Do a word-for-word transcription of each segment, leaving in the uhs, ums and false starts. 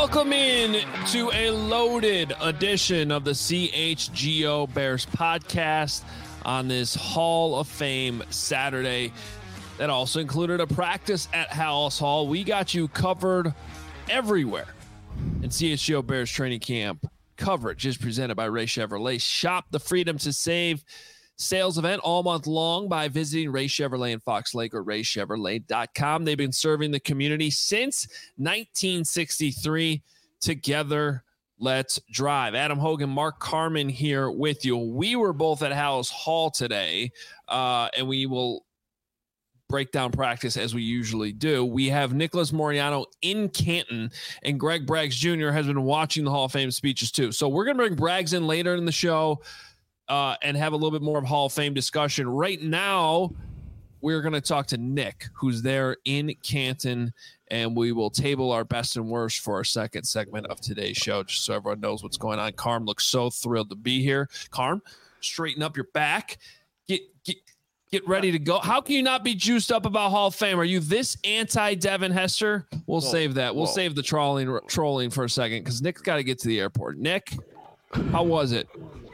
Welcome in to a loaded edition of the C H G O Bears podcast on this Hall of Fame Saturday. That also included a practice at Halas Hall. We got you covered everywhere. And C H G O Bears training camp coverage is presented by Ray Chevrolet. Shop the freedom to save sales event all month long by visiting Ray Chevrolet in Fox Lake or ray chevrolet dot com. They've been serving the community since nineteen sixty-three. Together, let's drive. Adam Hogan, Mark Carman here with you. We were both at Halas Hall today, uh, and we will break down practice as we usually do. We have Nicholas Moreano in Canton, and Greg Braggs Junior has been watching the Hall of Fame speeches too. So we're going to bring Braggs in later in the show uh, and have a little bit more of Hall of Fame discussion. Right now, we're going to talk to Nick, who's there in Canton, and we will table our best and worst for our second segment of today's show, just so everyone knows what's going on. Carm looks so thrilled to be here. Carm, straighten up your back. Get, get, Get ready to go. How can you not be juiced up about Hall of Fame? Are you this anti-Devin Hester? We'll whoa, save that. We'll whoa. save the trolling trolling for a second because Nick's got to get to the airport. Nick, how was it?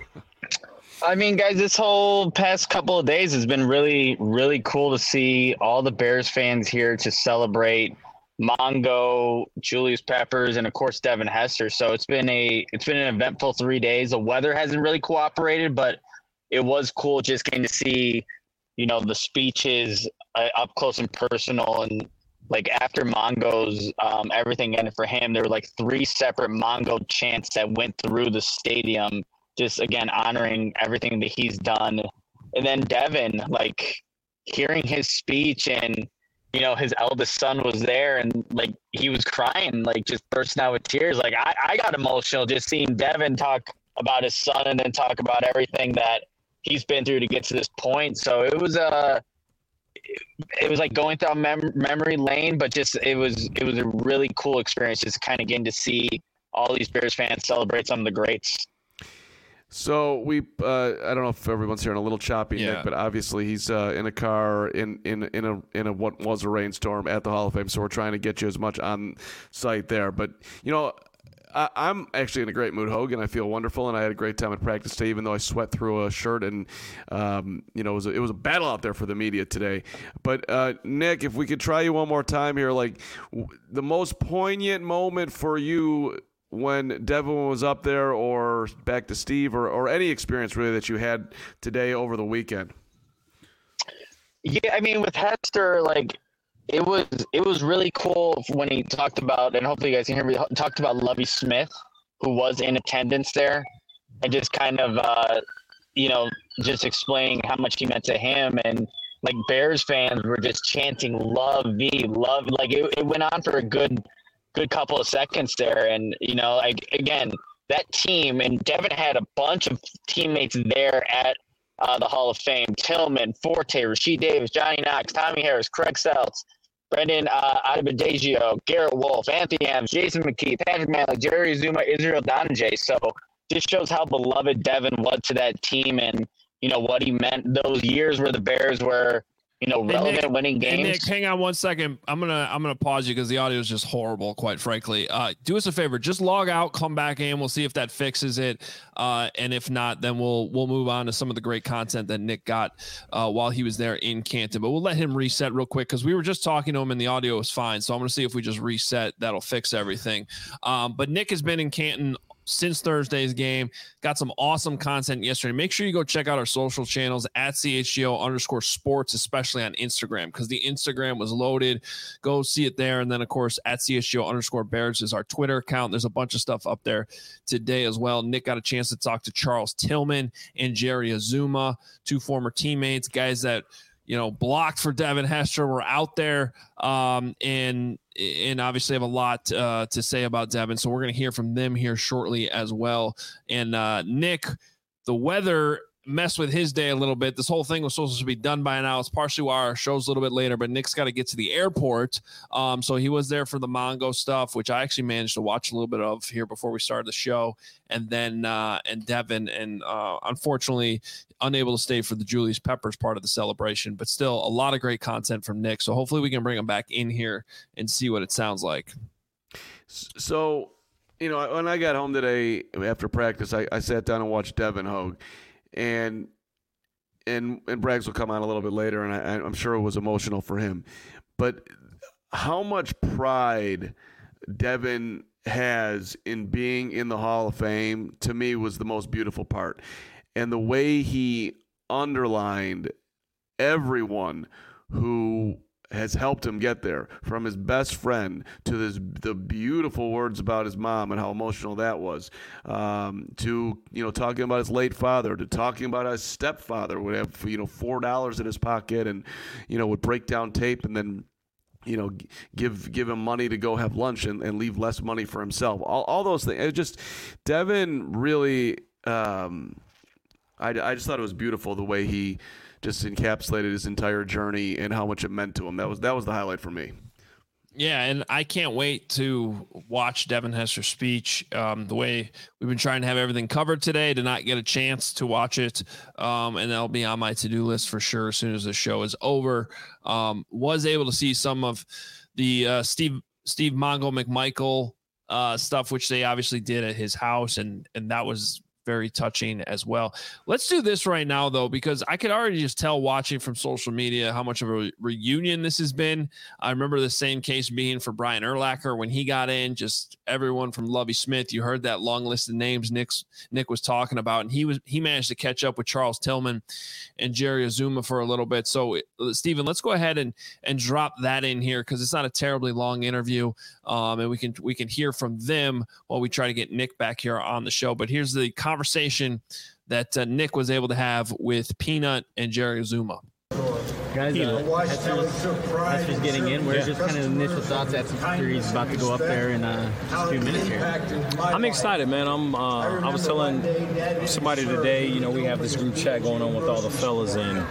I mean, guys, this whole past couple of days has been really, really cool to see all the Bears fans here to celebrate Mongo, Julius Peppers, and of course Devin Hester. So it's been a it's been an eventful three days. The weather hasn't really cooperated, but it was cool just getting to see, you know, the speeches uh, up close and personal. And like after Mongo's um, everything ended for him, there were like three separate Mongo chants that went through the stadium, just again honoring everything that he's done. And then Devin, like hearing his speech, and you know his eldest son was there, and like he was crying, like just bursting out with tears. Like I, I got emotional just seeing Devin talk about his son and then talk about everything that he's been through to get to this point. So it was a, uh, it was like going through mem- memory lane, but just it was it was a really cool experience, just kind of getting to see all these Bears fans celebrate some of the greats. So we, uh, I don't know if everyone's hearing a little choppy, yeah. Nick, but obviously he's uh, in a car in in in a in a what was a rainstorm at the Hall of Fame. So we're trying to get you as much on site there. But you know, I, I'm actually in a great mood, Hogan. I feel wonderful, and I had a great time at practice today, even though I sweat through a shirt, and um, you know, it was a, it was a battle out there for the media today. But uh, Nick, if we could try you one more time here, like w- the most poignant moment for you when Devin was up there, or back to Steve, or, or any experience really that you had today over the weekend? Yeah, I mean, with Hester, like it was it was really cool when he talked about, and hopefully you guys can hear me, talked about Lovie Smith, who was in attendance there, and just kind of, uh, you know, just explaining how much he meant to him. And like Bears fans were just chanting Lovie, love. Like it, it went on for a good good couple of seconds there. And, you know, like, again, that team, and Devin had a bunch of teammates there at uh, the Hall of Fame: Tillman, Forte, Rasheed Davis, Johnny Knox, Tommy Harris, Craig Seltz, Brendan uh, Adebayo, Garrett Wolf, Anthony Adams, Jason McKee, Patrick Malley, Jerry Zuma, Israel Donajay. So just shows how beloved Devin was to that team, and, you know, what he meant those years where the Bears were, you know, relevant, Nick, winning games. Nick, hang on one second. I'm gonna I'm gonna pause you because the audio is just horrible, quite frankly. Uh, do us a favor, just log out, come back in. We'll see if that fixes it, uh, and if not, then we'll we'll move on to some of the great content that Nick got uh, while he was there in Canton. But we'll let him reset real quick because we were just talking to him and the audio was fine. So I'm gonna see if we just reset. That'll fix everything. Um, but Nick has been in Canton since Thursday's game. Got some awesome content yesterday. Make sure you go check out our social channels at C H G O underscore sports, especially on Instagram, because the Instagram was loaded. Go see it there. And then, of course, at C H G O underscore Bears is our Twitter account. There's a bunch of stuff up there today as well. Nick got a chance to talk to Charles Tillman and Jerry Azuma, two former teammates, guys that, you know, blocked for Devin Hester, were out there, um, and and obviously have a lot uh, to say about Devin. So we're going to hear from them here shortly as well. And uh, Nick, the weather messed with his day a little bit. This whole thing was supposed to be done by now. It's partially why our show's a little bit later, but Nick's got to get to the airport. Um, so he was there for the Mongo stuff, which I actually managed to watch a little bit of here before we started the show. And then, uh, and Devin, and uh, unfortunately unable to stay for the Julius Peppers part of the celebration, but still a lot of great content from Nick. So hopefully we can bring him back in here and see what it sounds like. So you know, when I got home today after practice, I, I sat down and watched Devin Hogue, and and and Braggs will come on a little bit later, and I, I'm sure it was emotional for him. But how much pride Devin has in being in the Hall of Fame, to me, was the most beautiful part. And the way he underlined everyone who has helped him get there, from his best friend to this, the beautiful words about his mom and how emotional that was, um, to, you know, talking about his late father, to talking about his stepfather would have, you know, four dollars in his pocket and, you know, would break down tape and then, you know, give give him money to go have lunch and, and leave less money for himself. All all those things. It just, Devin really, um, I, I just thought it was beautiful the way he just encapsulated his entire journey and how much it meant to him. That was that was the highlight for me. Yeah, and I can't wait to watch Devin Hester's speech. Um, the way we've been trying to have everything covered today, to not get a chance to watch it, um, and that'll be on my to-do list for sure as soon as the show is over. Um, was able to see some of the uh, Steve Steve Mongo McMichael uh, stuff, which they obviously did at his house, and and that was very touching as well. Let's do this right now, though, because I could already just tell watching from social media how much of a re- reunion this has been. I remember the same case being for Brian Urlacher when he got in. Just everyone from Lovie Smith. You heard that long list of names Nick's, Nick was talking about, and he was he managed to catch up with Charles Tillman and Jerry Azuma for a little bit. So, Steven, let's go ahead and and drop that in here because it's not a terribly long interview, um, and we can we can hear from them while we try to get Nick back here on the show. But here's the conversation that uh, Nick was able to have with Peanut and Jerry Azuma. Guys, uh, Hester's getting in. Where's yeah. just kind of initial thoughts after he's about to go up there in uh, just a few minutes here? I'm excited, man. I'm. Uh, I was telling somebody today, you know, we have this group chat going on with all the fellas, and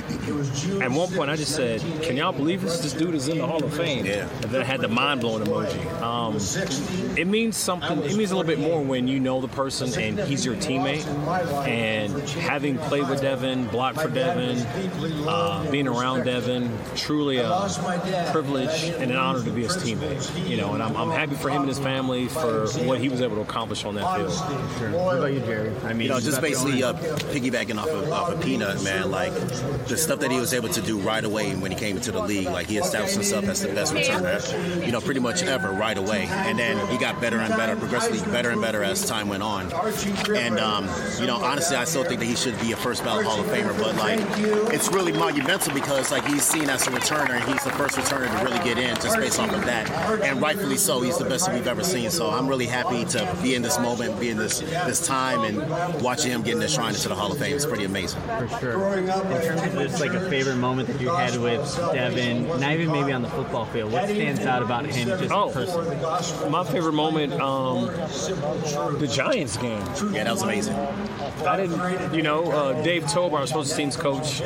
at one point I just said, "Can y'all believe this? This dude is in the Hall of Fame." Yeah. And then I had the mind-blowing emoji. Um, it means something. It means a little bit more when you know the person and he's your teammate. And having played with Devin, blocked for Devin, uh, being around Devin, truly a privilege and an honor to be his teammate. You know, and I'm, I'm happy for him and his family for what he was able to accomplish on that field. Sure. What about you, Jerry? I mean, you know, just basically uh, piggybacking off of, off of Peanut, man, like the stuff that he was able to do right away when he came into the league, like he established himself as the best returner, you know, pretty much ever right away. And then he got better and better, progressively better and better as time went on. And, um, you know, honestly, I still think that he should be a first ballot Hall of Famer, but like it's really monumental because like he's seen as a returner and he's the first returner to really get in just based off of that. And rightfully so, he's the best we've ever seen. So I'm really happy to be in this moment, be in this this time and watching him getting enshrined into the Hall of Fame. It's pretty amazing. For sure. In terms of just like a favorite moment that you had with Devin, not even maybe on the football field, what stands out about him just oh, personally? My favorite moment, um, the Giants game. Yeah, that was amazing. I didn't, you know, uh, Dave Tober, our special teams coach,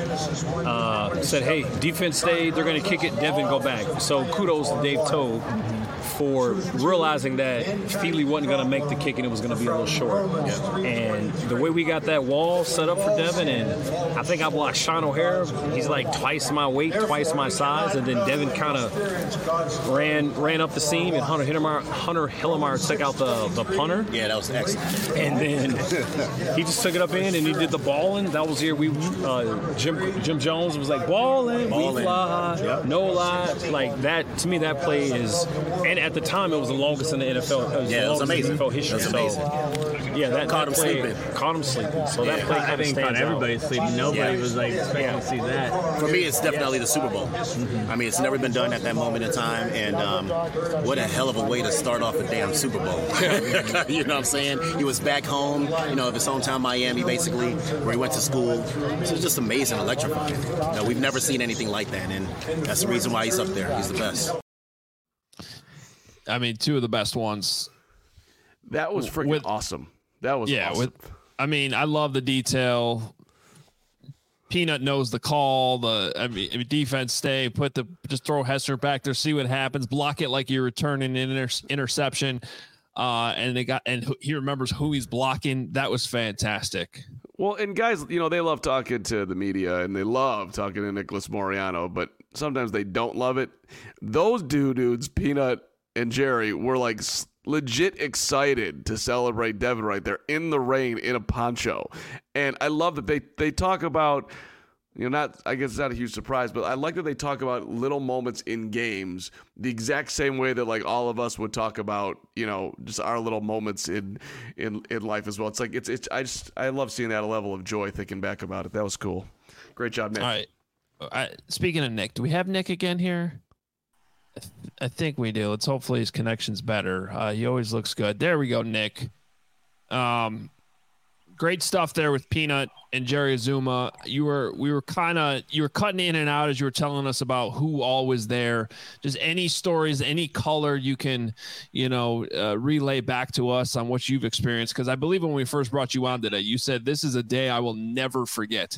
uh, said, hey, defense stay, they're going to kick it, Devin go back. So kudos to Dave Tobe for realizing that Feely wasn't going to make the kick and it was going to be a little short. Yeah. And the way we got that wall set up for Devin, and I think I blocked Sean O'Hara. He's like twice my weight, twice my size, and then Devin kind of ran ran up the seam, and Hunter Hillemeyer, Hunter Hillemeyer took out the, the punter. Yeah, that was excellent. And then he just took it up in, and he did the balling. That was here. We uh, Jim Jim Jones was like balling, we fly, yep. No lie. Like that to me, that play is, and at the time it was the longest in the N F L. It was yeah, the it was amazing. N F L history. It was amazing. So, yeah, that caught that him play, sleeping. Caught him sleeping. So yeah. that play kind I of think stands caught everybody out. sleeping. Nobody yeah. was like expecting yeah. to see that. For me, it's definitely the Super Bowl. Mm-hmm. I mean, it's never been done at that moment in time, and um, what a hell of a way to start off a damn Super Bowl. You know what I'm saying? He was back home, you know, of his hometown, Miami, basically, where he went to school. It was just amazing, electrifying. You know, we've never seen anything like that, and that's the reason why he's up there. He's the best. I mean, two of the best ones. That was freaking with, awesome. That was yeah. Awesome. With, I mean, I love the detail. Peanut knows the call. The I mean, defense stay. Put the just throw Hester back there. See what happens. Block it like you're returning an inter- interception. Uh, and they got and he remembers who he's blocking. That was fantastic. Well, and guys, you know, they love talking to the media and they love talking to Nicholas Moreano, but sometimes they don't love it. Those two dudes, Peanut and Jerry, were like legit excited to celebrate Devin right there in the rain in a poncho. And I love that they, they talk about, you know, not, I guess it's not a huge surprise, but I like that they talk about little moments in games the exact same way that like all of us would talk about, you know, just our little moments in, in, in life as well. It's like, it's, it's, I just, I love seeing that level of joy thinking back about it. That was cool. Great job, Nick. All right. I, speaking of Nick, do we have Nick again here? I, th- I think we do. Let's hopefully his connection's better. Uh, he always looks good. There we go, Nick. Um, great stuff there with Peanut and Jerry Azuma. You were we were kind of you were cutting in and out as you were telling us about who all was there. Just any stories, any color you can, you know, uh, relay back to us on what you've experienced. Because I believe when we first brought you on today, you said this is a day I will never forget.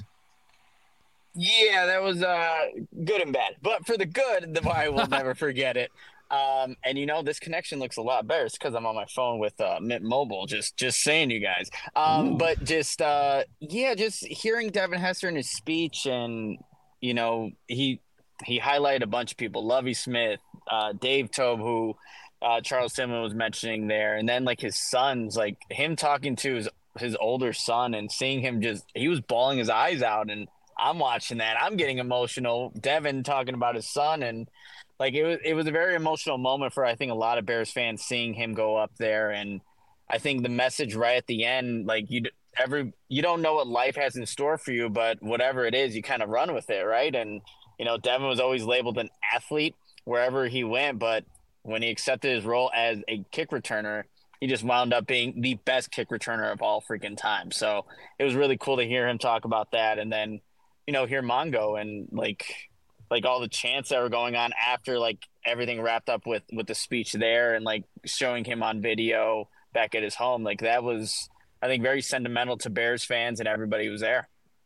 Yeah, that was uh, good and bad. But for the good, the I will never forget it. Um, and, you know, this connection looks a lot better. It's because I'm on my phone with uh, Mint Mobile, just just saying, you guys. Um, but just, uh, yeah, just hearing Devin Hester in his speech and, you know, he he highlighted a bunch of people. Lovie Smith, uh, Dave Tobe, who uh, Charles Tillman was mentioning there. And then, like, his sons, like, him talking to his, his older son and seeing him just – he was bawling his eyes out. And I'm watching that. I'm getting emotional. Devin talking about his son, and like it was it was a very emotional moment for I think a lot of Bears fans seeing him go up there. And I think the message right at the end, like you every you don't know what life has in store for you, but whatever it is, you kind of run with it, right? And you know, Devin was always labeled an athlete wherever he went, but when he accepted his role as a kick returner, he just wound up being the best kick returner of all freaking time. So it was really cool to hear him talk about that, and then you know, hear Mongo and like, like all the chants that were going on after like everything wrapped up with, with the speech there and like showing him on video back at his home. Like that was, I think, very sentimental to Bears fans and everybody who was there.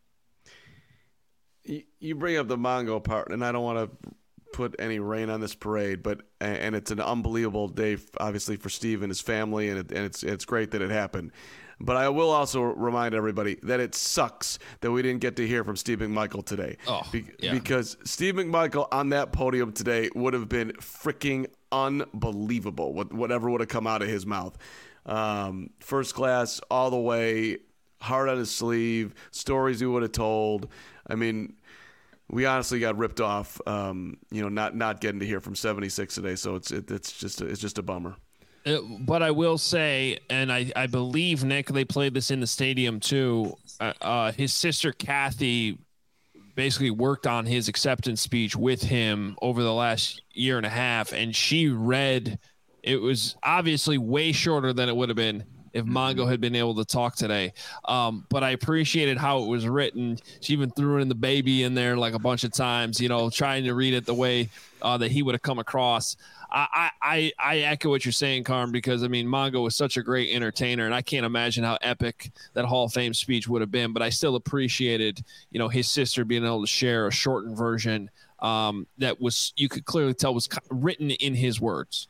You bring up the Mongo part, and I don't want to put any rain on this parade, but and it's an unbelievable day, obviously, for Steve and his family, and, it, and it's it's great that it happened. But I will also remind everybody that it sucks that we didn't get to hear from Steve McMichael today. Oh, Be- yeah. Because Steve McMichael on that podium today would have been freaking unbelievable, whatever would have come out of his mouth. Um, first class all the way, heart on his sleeve, stories he would have told. I mean, we honestly got ripped off, um, you know, not not getting to hear from seventy-six today. So it's it, it's just a, it's just a bummer. It, but I will say, and I, I believe, Nick, they played this in the stadium too. Uh, uh, his sister, Kathy, basically worked on his acceptance speech with him over the last year and a half. And she read, it was obviously way shorter than it would have been if Mongo had been able to talk today. Um, but I appreciated how it was written. She even threw in the baby in there like a bunch of times, you know, trying to read it the way uh, that he would have come across. I, I, I echo what you're saying, Carm, because, I mean, Mongo was such a great entertainer, and I can't imagine how epic that Hall of Fame speech would have been. But I still appreciated, you know, his sister being able to share a shortened version um, that was, you could clearly tell was written in his words.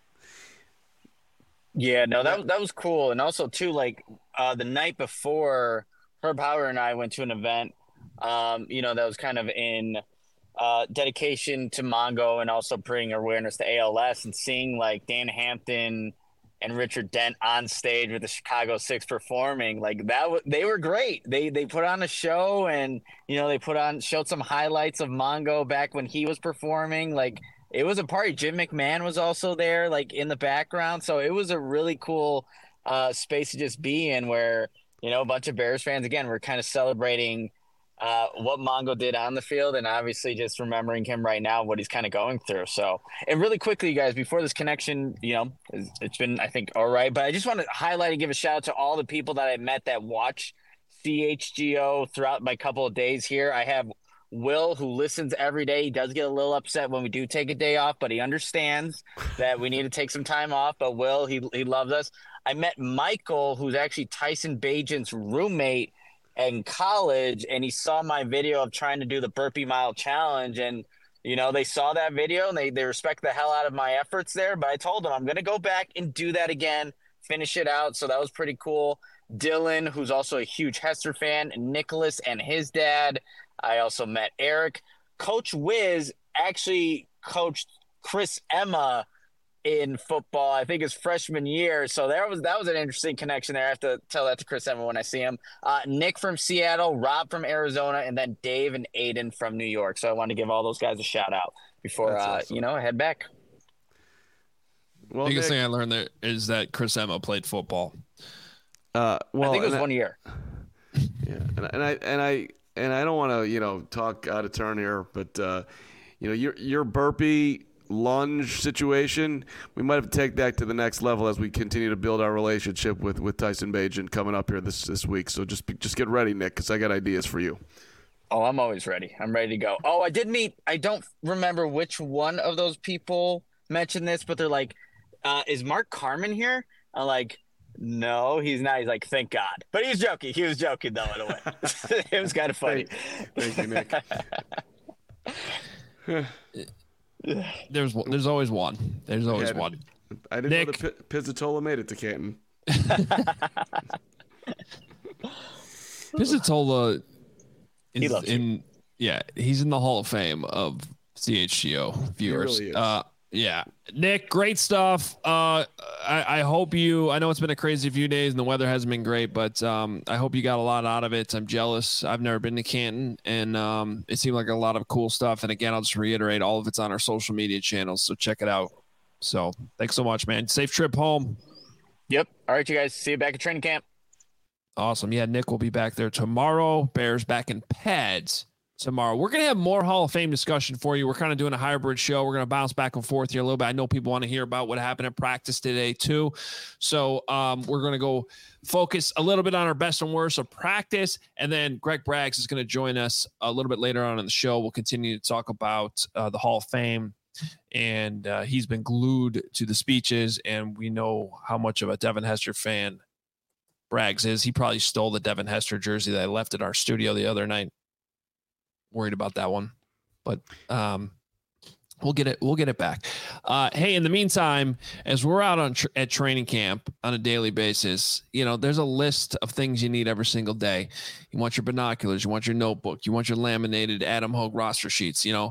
Yeah, no, that, that was cool. And also, too, like uh, the night before, Herb Howard and I went to an event, um, you know, that was kind of in – Uh, dedication to Mongo and also bringing awareness to A L S, and seeing like Dan Hampton and Richard Dent on stage with the Chicago Six performing like that. W- they were great. They they put on a show, and you know they put on showed some highlights of Mongo back when he was performing. Like it was a party. Jim McMahon was also there, like in the background. So it was a really cool uh, space to just be in, where you know a bunch of Bears fans again were kind of celebrating uh, what Mongo did on the field, and obviously just remembering him right now, what he's kind of going through. So, and really quickly, you guys, before this connection, you know, it's been, I think, all right, but I just want to highlight and give a shout out to all the people that I met that watch C H G O throughout my couple of days here. I have Will, who listens every day. He does get a little upset when we do take a day off, but he understands that we need to take some time off. But Will, he, he loves us. I met Michael, who's actually Tyson Bagent's roommate in college, and he saw my video of trying to do the burpee mile challenge, and you know they saw that video and they, they respect the hell out of my efforts there. But I told them I'm going to go back and do that again, finish it out. So that was pretty cool. Dylan, who's also a huge Hester fan, Nicholas and his dad. I also met Eric. Coach Wiz actually coached Chris Emma in football, I think his freshman year. So there was that was an interesting connection there. I have to tell that to Chris Emma when I see him. Uh, Nick from Seattle, Rob from Arizona, and then Dave and Aiden from New York. So I want to give all those guys a shout out before uh, awesome. you know, I head back. Well, biggest Nick, thing I learned there is that Chris Emma played football. Uh, well, I think it was I, one year. Yeah, and, and I and I and I don't want to you know talk out of turn here, but uh, you know your your burpee lunge situation, we might have to take that to the next level as we continue to build our relationship with, with Tyson Bagent coming up here this this week. So just just get ready, Nick, because I got ideas for you. Oh, I'm always ready. I'm ready to go. Oh, I did meet. I don't remember which one of those people mentioned this, but they're like, uh, "Is Mark Carman here?" I'm like, "No, he's not." He's like, "Thank God," but he was joking. He was joking though in a way. It was kind of funny. Thank, thank you, Nick. There's there's always one. There's always yeah, one. I didn't Nick. know the P- Pizzatola made it to Canton. Pizzatola is he loves in you. yeah, he's in the Hall of Fame of C H G O viewers. He really is. Uh yeah. Nick, great stuff. Uh I, I hope you I know it's been a crazy few days and the weather hasn't been great, but um I hope you got a lot out of it. I'm jealous. I've never been to Canton and um it seemed like a lot of cool stuff. And again, I'll just reiterate, all of it's on our social media channels, so check it out. So thanks so much, man. Safe trip home. Yep. All right, you guys. See you back at training camp. Awesome. Yeah, Nick will be back there tomorrow. Bears back in pads tomorrow. We're going to have more Hall of Fame discussion for you. We're kind of doing a hybrid show. We're going to bounce back and forth here a little bit. I know people want to hear about what happened at practice today too. So um, we're going to go focus a little bit on our best and worst of practice. And then Greg Braggs is going to join us a little bit later on in the show. We'll continue to talk about uh, the Hall of Fame. And uh, he's been glued to the speeches, and we know how much of a Devin Hester fan Braggs is. He probably stole the Devin Hester jersey that I left at our studio the other night. Worried about that one, but um, we'll get it. We'll get it back. Uh, hey, in the meantime, as we're out on tr- at training camp on a daily basis, you know, there's a list of things you need every single day. You want your binoculars, you want your notebook, you want your laminated Adam Hogue roster sheets. You know.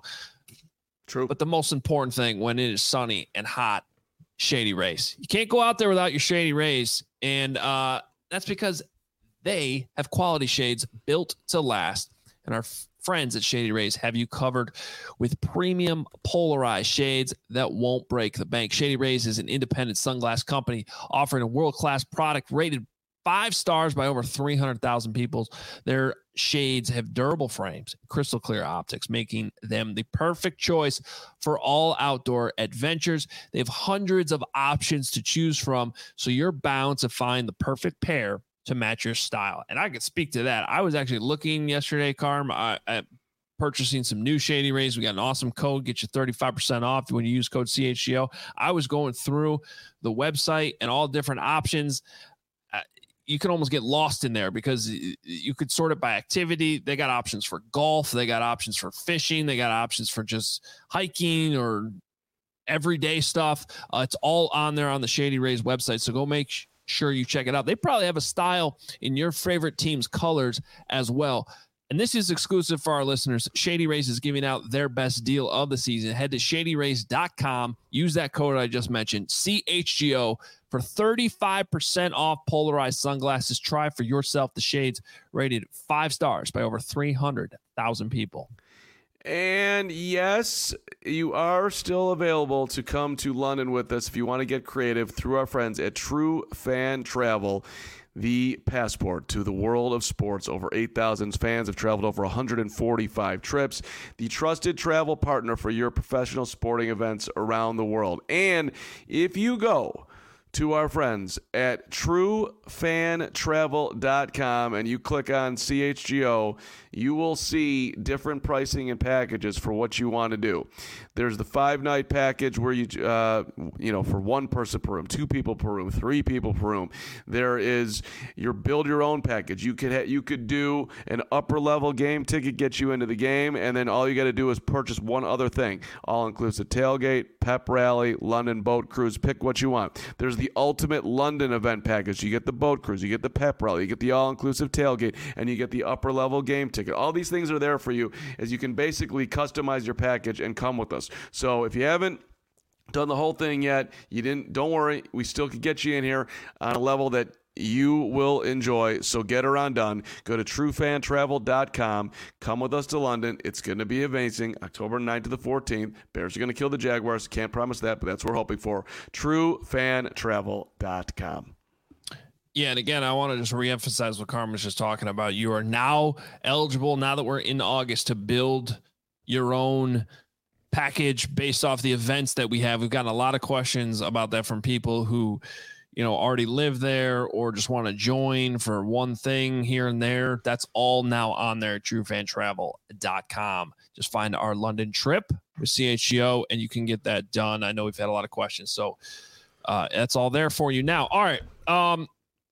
True. But the most important thing when it is sunny and hot, Shady Rays. You can't go out there without your Shady Rays. And uh, that's because they have quality shades built to last. And our f- friends at Shady Rays have you covered with premium polarized shades that won't break the bank. Shady Rays is an independent sunglass company offering a world-class product rated five stars by over three hundred thousand people. Their shades have durable frames, crystal clear optics, making them the perfect choice for all outdoor adventures. They have hundreds of options to choose from, so you're bound to find the perfect pair to match your style. And I could speak to that. I was actually looking yesterday, Carm, uh, at purchasing some new Shady Rays. We got an awesome code, get you thirty-five percent off when you use code C H G O. I was going through the website and all different options. Uh, you can almost get lost in there because you could sort it by activity. They got options for golf. They got options for fishing. They got options for just hiking or everyday stuff. Uh, it's all on there on the Shady Rays website. So go make sh- sure you check it out. They probably have a style in your favorite team's colors as well. And this is exclusive for our listeners. Shady Rays is giving out their best deal of the season. Head to shady rays dot com. Use that code I just mentioned, C H G O, for thirty-five percent off polarized sunglasses. Try for yourself the shades rated five stars by over three hundred thousand people. And yes, you are still available to come to London with us if you want to get creative through our friends at True Fan Travel. The passport to the world of sports. Over eight thousand fans have traveled over one hundred forty-five trips. The trusted travel partner for your professional sporting events around the world. And if you go to our friends at true fan travel dot com and you click on C H G O, you will see different pricing and packages for what you want to do. There's the five-night package where you, uh, you know, for one person per room, two people per room, three people per room. There is your build-your-own package. You could ha- you could do an upper-level game ticket, get you into the game, and then all you got to do is purchase one other thing. All-inclusive tailgate, pep rally, London boat cruise. Pick what you want. There's the ultimate London event package. You get the boat cruise, you get the pep rally, you get the all-inclusive tailgate, and you get the upper-level game ticket. All these things are there for you as you can basically customize your package and come with us. So if you haven't done the whole thing yet. You didn't. Don't worry. We still can get you in here on a level that you will enjoy. So get her on done. Go to true fan travel dot com. Come with us to London. It's going to be amazing. October ninth to the fourteenth. Bears are going to kill the Jaguars. Can't promise that, but that's what we're hoping for. true fan travel dot com. Yeah, and again, I want to just reemphasize what Carmen was just talking about. You are now eligible, now that we're in August, to build your own package based off the events that we have. We've gotten a lot of questions about that from people who, you know, already live there or just want to join for one thing here and there. That's all now on there at true fan travel dot com. Just find our London trip with C H G O and you can get that done. I know we've had a lot of questions, so uh, that's all there for you now. All right. Um,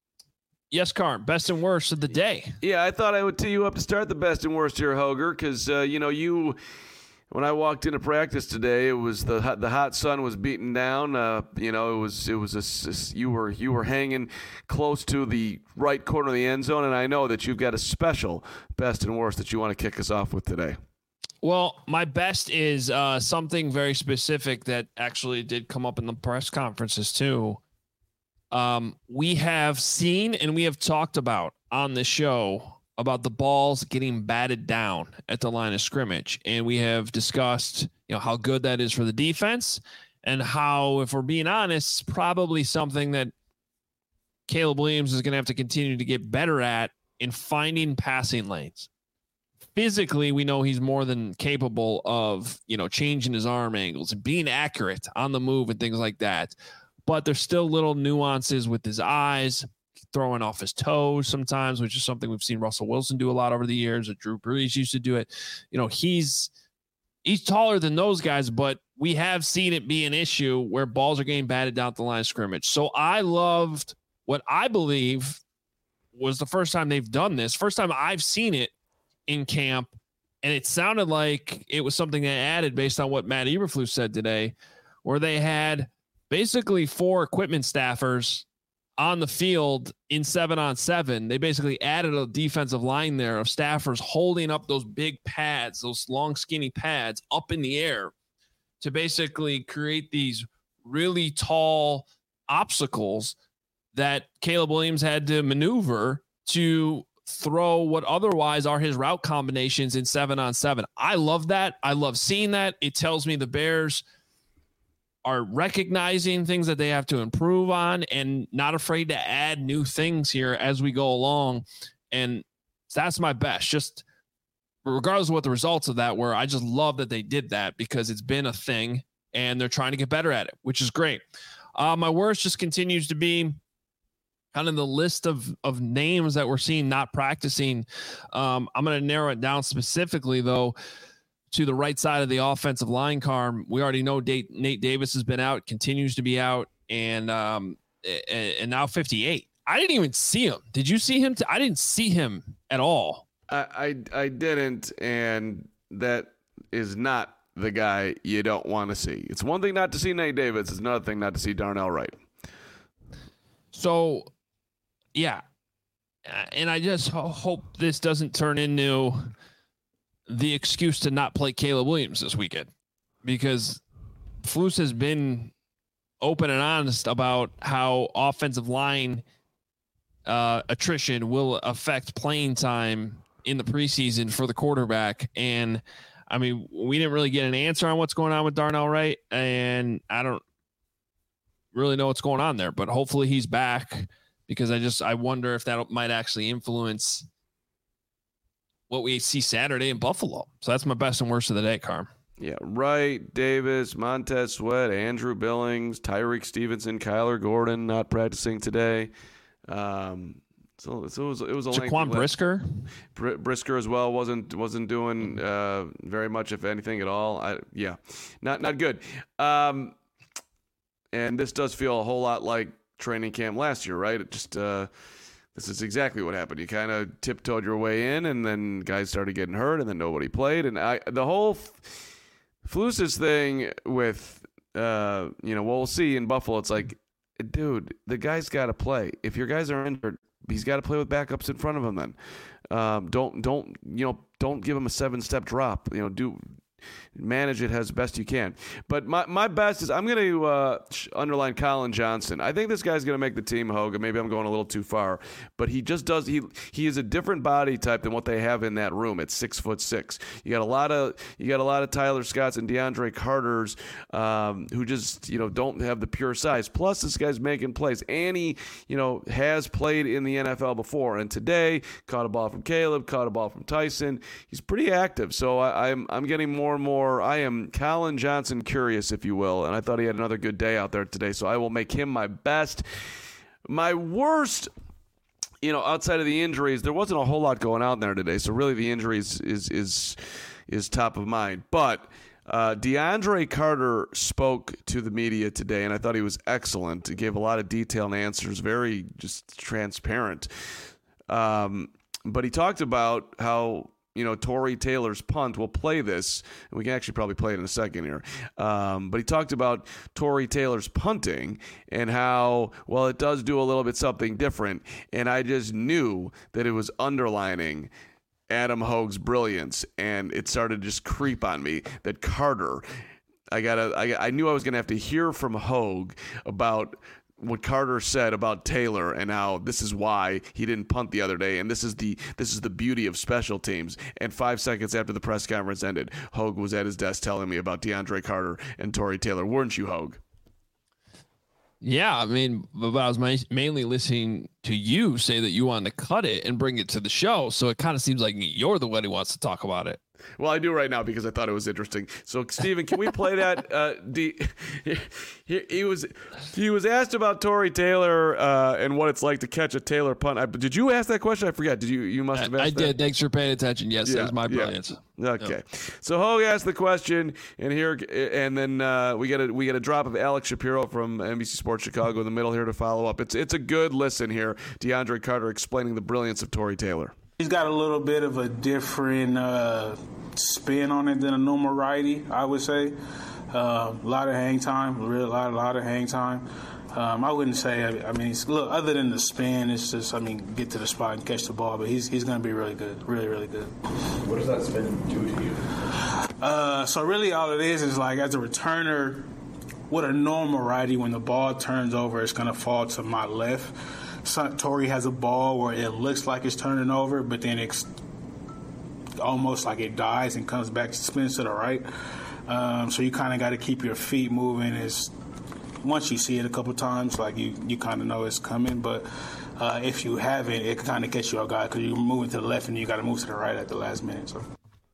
yes, Carm, best and worst of the day. Yeah, I thought I would tee you up to start the best and worst here, Hoger, because, uh, you know, you... When I walked into practice today, it was the the hot sun was beating down. Uh, you know, it was it was a, you were you were hanging close to the right corner of the end zone, and I know that you've got a special best and worst that you want to kick us off with today. Well, my best is uh, something very specific that actually did come up in the press conferences too. Um, we have seen and we have talked about on the show about the balls getting batted down at the line of scrimmage. And we have discussed, you know, how good that is for the defense and how, if we're being honest, probably something that Caleb Williams is going to have to continue to get better at in finding passing lanes. Physically, we know he's more than capable of, you know, changing his arm angles and being accurate on the move and things like that. But there's still little nuances with his eyes, throwing off his toes sometimes, which is something we've seen Russell Wilson do a lot over the years, or Drew Brees used to do it. You know, he's he's taller than those guys, but we have seen it be an issue where balls are getting batted down at the line of scrimmage. So I loved what I believe was the first time they've done this, first time I've seen it in camp, and it sounded like it was something they added based on what Matt Eberflus said today, where they had basically four equipment staffers on the field in seven on seven. They basically added a defensive line there of staffers holding up those big pads, those long, skinny pads up in the air to basically create these really tall obstacles that Caleb Williams had to maneuver to throw what otherwise are his route combinations in seven on seven. I love that. I love seeing that. It tells me the Bears are recognizing things that they have to improve on and not afraid to add new things here as we go along. And that's my best, just regardless of what the results of that were. I just love that they did that because it's been a thing and they're trying to get better at it, which is great. Uh, my worst just continues to be kind of the list of, of names that we're seeing not practicing. Um, I'm going to narrow it down specifically though, to the right side of the offensive line, Carm. We already know Nate, Nate Davis has been out, continues to be out, and um, and now fifty-eight. I didn't even see him. Did you see him? T- I didn't see him at all. I, I I didn't, and that is not the guy you don't want to see. It's one thing not to see Nate Davis. It's another thing not to see Darnell Wright. So, yeah, and I just ho- hope this doesn't turn into the excuse to not play Caleb Williams this weekend, because Flus has been open and honest about how offensive line uh, attrition will affect playing time in the preseason for the quarterback. And I mean, we didn't really get an answer on what's going on with Darnell Wright, and I don't really know what's going on there, but hopefully he's back, because I just, I wonder if that might actually influence what we see Saturday in Buffalo. So that's my best and worst of the day, Carm. Yeah, Wright, Davis, Montez Sweat, Andrew Billings, Tyreek Stevenson, Kyler Gordon not practicing today. Um, so, so it was it was a Jaquan Brisker, Br- Brisker as well wasn't wasn't doing uh, very much, if anything at all. I, yeah, not not good. Um, and this does feel a whole lot like training camp last year, right? It just uh, this is exactly what happened. You kind of tiptoed your way in, and then guys started getting hurt, and then nobody played. And I, the whole Flus's thing with, uh, you know, what we'll see in Buffalo, it's like, dude, the guy's got to play. If your guys are injured, he's got to play with backups in front of him then. Um, don't, don't, you know, don't give him a seven-step drop. You know, do manage it as best you can. But my, my best is I'm going to uh, underline Colin Johnson. I think this guy's going to make the team, Hogan. Maybe I'm going a little too far, but he just does. He he is a different body type than what they have in that room at six foot six. You got a lot of you got a lot of Tyler Scotts and DeAndre Carters um, who just you know don't have the pure size. Plus, this guy's making plays, and he you know has played in the N F L before. And today, caught a ball from Caleb, caught a ball from Tyson. He's pretty active, so I, I'm I'm getting more and more. I am Colin Johnson curious, if you will, and I thought he had another good day out there today, so I will make him my best. My worst, you know, outside of the injuries, there wasn't a whole lot going on there today, so really the injuries is is is top of mind. But uh, DeAndre Carter spoke to the media today, and I thought he was excellent. He gave a lot of detailed answers, very just transparent. Um, but he talked about how you know, Tory Taylor's punt. We'll play this, and we can actually probably play it in a second here. Um, but he talked about Tory Taylor's punting and how, well, it does do a little bit something different. And I just knew that it was underlining Adam Hogue's brilliance, and it started to just creep on me that Carter, I gotta, I, I knew I was going to have to hear from Hogue about what Carter said about Taylor and how this is why he didn't punt the other day, and this is the this is the beauty of special teams. And five seconds after the press conference ended, Hogue was at his desk telling me about DeAndre Carter and Tory Taylor. Weren't you, Hogue? Yeah, I mean, but I was ma- mainly listening to you say that you wanted to cut it and bring it to the show, so it kind of seems like you're the one who wants to talk about it. Well, I do right now because I thought it was interesting. So, Steven, can we play that? Uh, D, he, he was he was asked about Tory Taylor uh, and what it's like to catch a Taylor punt. I, did you ask that question? I forget. Did you? You must have asked I, I that. did. Thanks for paying attention. Yes, yeah, that was my yeah. brilliance. Okay. Yep. So Hogue asked the question, and here, and then uh, we get a we get a drop of Alex Shapiro from N B C Sports Chicago in the middle here to follow up. It's it's a good listen here. DeAndre Carter explaining the brilliance of Tory Taylor. He's got a little bit of a different uh, spin on it than a normal righty, I would say. Uh, a lot of hang time, a real lot, a lot of hang time. Um, I wouldn't say. I, I mean, it's, look, other than the spin, it's just. I mean, get to the spot and catch the ball. But he's he's going to be really good, really, really good. What does that spin do to you? Uh, so really, all it is is like as a returner, with a normal righty, when the ball turns over, it's going to fall to my left. Tory has a ball where it looks like it's turning over, but then it's almost like it dies and comes back, spins to the right. Um, so you kind of got to keep your feet moving. Is once you see it a couple times, like you, you kind of know it's coming. But uh, if you haven't, it can kind of catch you off guard because you're moving to the left and you got to move to the right at the last minute. So.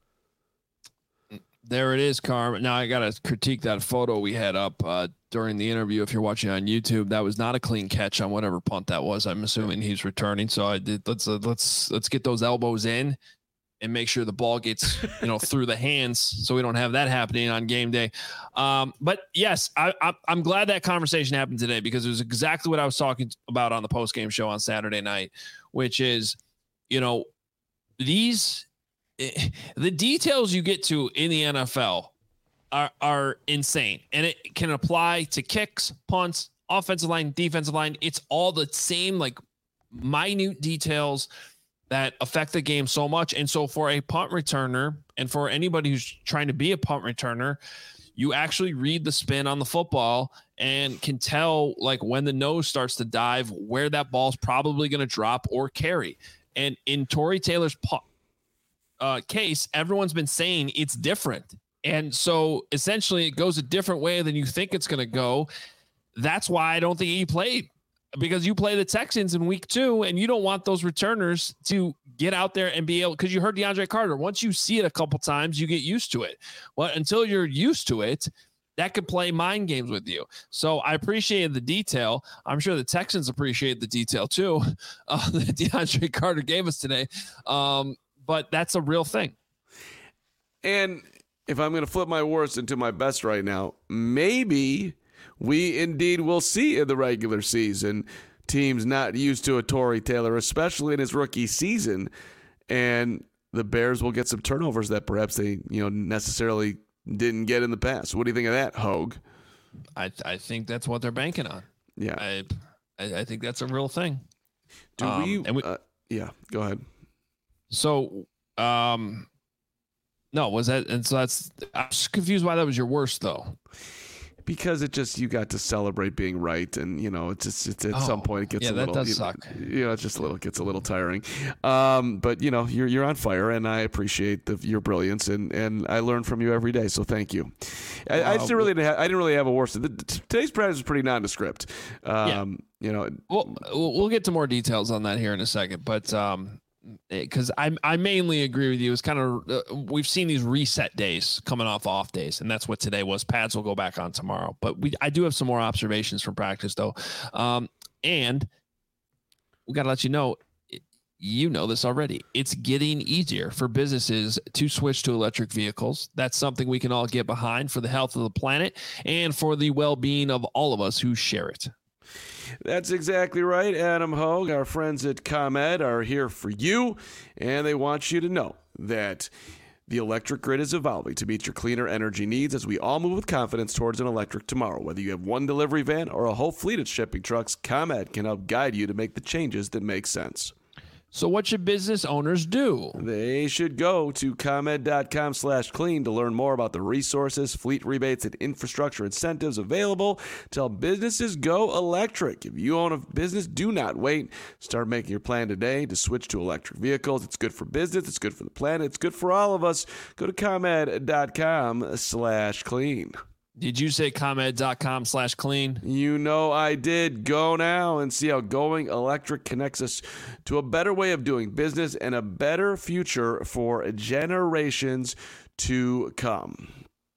There it is, Carm. Now I got to critique that photo we had up uh, during the interview. If you're watching on YouTube, that was not a clean catch on whatever punt that was. I'm assuming he's returning. So I did. Let's uh, let's let's get those elbows in and make sure the ball gets you know through the hands, so we don't have that happening on game day. Um, but yes, I, I, I'm glad that conversation happened today because it was exactly what I was talking about on the post game show on Saturday night, which is you know these. The details you get to in the N F L are, are insane, and it can apply to kicks, punts, offensive line, defensive line. It's all the same, like minute details that affect the game so much. And so for a punt returner and for anybody who's trying to be a punt returner, you actually read the spin on the football and can tell like when the nose starts to dive, where that ball's probably going to drop or carry. And in Tory Taylor's punt, Uh, case, everyone's been saying it's different. And so essentially it goes a different way than you think it's going to go. That's why I don't think he played, because you play the Texans in week two and you don't want those returners to get out there and be able, because you heard DeAndre Carter, once you see it a couple times, you get used to it. Well, until you're used to it, that could play mind games with you. So I appreciated the detail. I'm sure the Texans appreciate the detail too uh, that DeAndre Carter gave us today. Um, But that's a real thing. And if I'm going to flip my worst into my best right now, maybe we indeed will see in the regular season teams not used to a Tory Taylor, especially in his rookie season, and the Bears will get some turnovers that perhaps they, you know, necessarily didn't get in the past. What do you think of that, Hogue? I I think that's what they're banking on. Yeah, I I, I think that's a real thing. Do um, we, and we? Uh, yeah, go ahead. So, um, No, was that? And so that's. I'm just confused why that was your worst though. Because it just, you got to celebrate being right, and you know, it's just it's, at oh, some point it gets yeah, a little. that does you suck. Know, you know, it's just a little gets a little tiring. Um, but you know, you're you're on fire, and I appreciate the, your brilliance, and, and I learn from you every day. So thank you. I, uh, I just really didn't have, I didn't really have a worse. The, today's practice was pretty nondescript. Um, yeah. You know, well, we'll get to more details on that here in a second, but. Um, Because I I mainly agree with you. It's kind of uh, we've seen these reset days coming off off days, and that's what today was. Pads will go back on tomorrow, but we I do have some more observations from practice though, um, and we got to let you know. You know this already. It's getting easier for businesses to switch to electric vehicles. That's something we can all get behind for the health of the planet and for the well-being of all of us who share it. That's exactly right. Adam Hogue, our friends at ComEd are here for you, and they want you to know that the electric grid is evolving to meet your cleaner energy needs as we all move with confidence towards an electric tomorrow. Whether you have one delivery van or a whole fleet of shipping trucks, ComEd can help guide you to make the changes that make sense. So what should business owners do? They should go to ComEd.com slash clean to learn more about the resources, fleet rebates, and infrastructure incentives available to help businesses go electric. If you own a business, do not wait. Start making your plan today to switch to electric vehicles. It's good for business. It's good for the planet. It's good for all of us. Go to ComEd.com slash clean. Did you say ComEd.com slash clean? You know I did. Go now and see how going electric connects us to a better way of doing business and a better future for generations to come.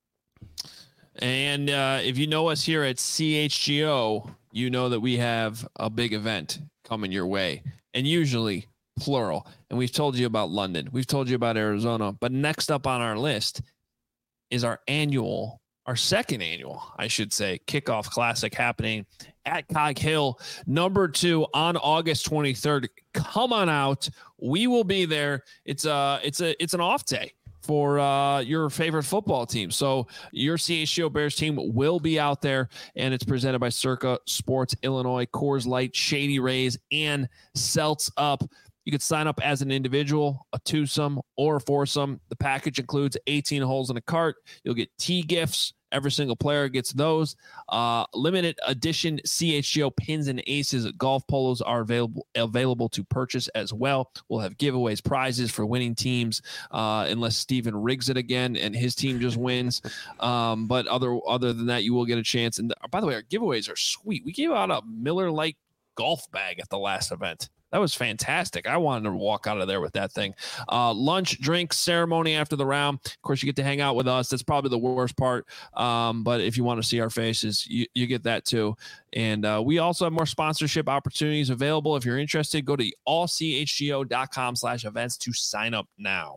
And uh, if you know us here at C H G O, you know that we have a big event coming your way, and usually plural. And we've told you about London. We've told you about Arizona. But next up on our list is our annual Our second annual, I should say, Kickoff Classic happening at Cog Hill, number two on August twenty-third. Come on out. We will be there. It's a, it's a, it's an off day for uh, your favorite football team. So your C H G O Bears team will be out there, and it's presented by Circa Sports Illinois, Coors Light, Shady Rays, and Celts Up. You could sign up as an individual, a twosome, or a foursome. The package includes eighteen holes in a cart. You'll get tee gifts. Every single player gets those. Uh, limited edition C H G O pins and aces golf polos are available available to purchase as well. We'll have giveaways, prizes for winning teams, uh, unless Steven rigs it again and his team just wins. Um, but other other than that, you will get a chance. And by the way, our giveaways are sweet. We gave out a Miller Lite golf bag at the last event. That was fantastic. I wanted to walk out of there with that thing. Uh, lunch, drinks, ceremony after the round. Of course, you get to hang out with us. That's probably the worst part. Um, but if you want to see our faces, you, you get that too. And uh, we also have more sponsorship opportunities available. If you're interested, go to allchgo.com slash events to sign up now.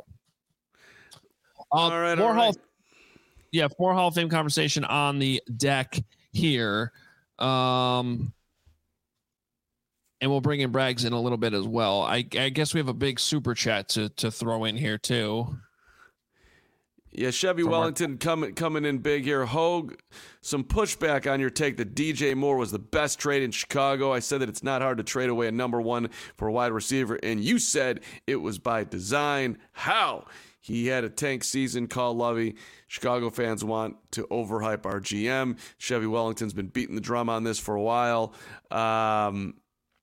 Uh, all right, more all right. Hall, yeah, more Hall of Fame conversation on the deck here. Um, And we'll bring in Braggs in a little bit as well. I, I guess we have a big super chat to to throw in here too. Yeah, Chevy From Wellington our- coming coming in big here. Hogue, some pushback on your take that D J Moore was the best trade in Chicago. I said that it's not hard to trade away a number one for a wide receiver, and you said it was by design. How? He had a tank season, call Lovey. Chicago fans want to overhype our G M. Chevy Wellington's been beating the drum on this for a while. Um...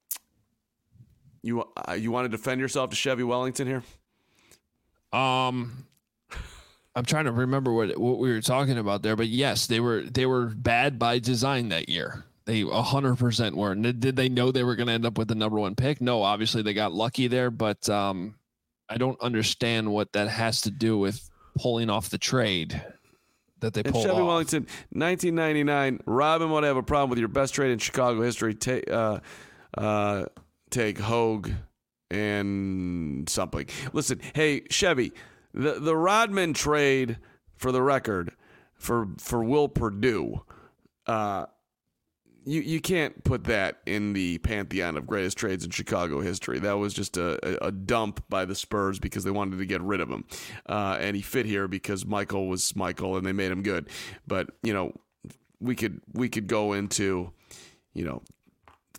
You uh, you want to defend yourself to Chevy Wellington here? Um, I'm trying to remember what what we were talking about there, but yes, they were they were bad by design that year. They one hundred percent were. Did they know they were going to end up with the number one pick? No, obviously they got lucky there, but um, I don't understand what that has to do with pulling off the trade that they and pulled Chevy off. Wellington, nineteen ninety-nine. Robin would have a problem with your best trade in Chicago history. Take uh, uh. Take Hogue and something. Listen, hey, Chevy, the, the Rodman trade, for the record, for for Will Perdue, uh, you, you can't put that in the pantheon of greatest trades in Chicago history. That was just a, a, a dump by the Spurs because they wanted to get rid of him. Uh, and he fit here because Michael was Michael and they made him good. But, you know, we could we could go into, you know,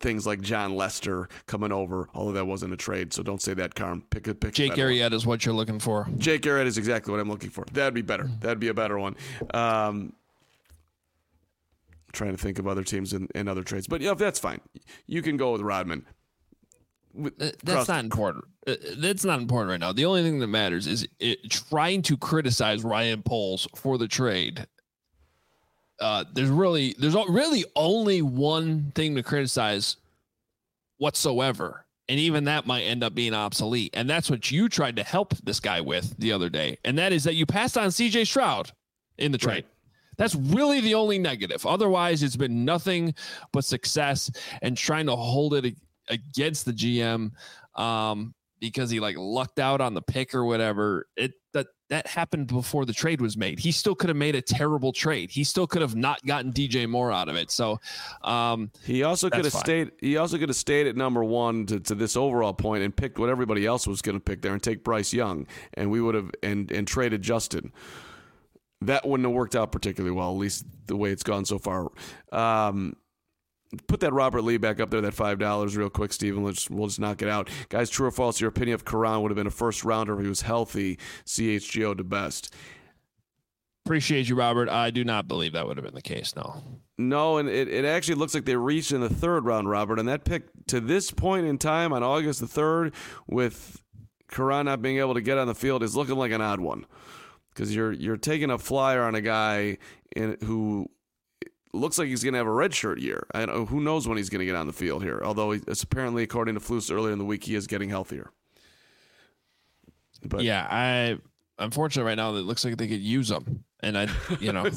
things like John Lester coming over, although that wasn't a trade, so don't say that, Carm. Pick a pick. Jake Arrieta is what you're looking for. Jake Arrieta is exactly what I'm looking for. That'd be better. That'd be a better one. Um, trying to think of other teams and, and other trades, but yeah, that's fine. You can go with Rodman. With, uh, that's not important. Uh, that's not important right now. The only thing that matters is it, trying to criticize Ryan Poles for the trade. Uh, there's really, there's really only one thing to criticize whatsoever. And even that might end up being obsolete. And that's what you tried to help this guy with the other day. And that is that you passed on C J Stroud in the trade. Right. That's really the only negative. Otherwise, it's been nothing but success and trying to hold it against the G M um, because he like lucked out on the pick or whatever. It that that happened before the trade was made. He still could have made a terrible trade. He still could have not gotten D J Moore out of it. So um, he also could have stayed. He also could have stayed at number one to, to this overall point and picked what everybody else was going to pick there and take Bryce Young, and we would have and and traded Justin. That wouldn't have worked out particularly well, at least the way it's gone so far. Um, Put that Robert Lee back up there, that five dollars real quick, Steven. Let's, we'll just knock it out. Guys, true or false, your opinion of Karan would have been a first-rounder if he was healthy, C H G O to best? Appreciate you, Robert. I do not believe that would have been the case, no. No, and it, it actually looks like they reached in the third round, Robert, and that pick to this point in time on August the third with Karan not being able to get on the field is looking like an odd one because you're, you're taking a flyer on a guy in, who – looks like he's going to have a redshirt year. I don't, who knows when he's going to get on the field here, although it's apparently, according to Flus earlier in the week, he is getting healthier. But yeah, I unfortunately right now it looks like they could use him. And I, you know,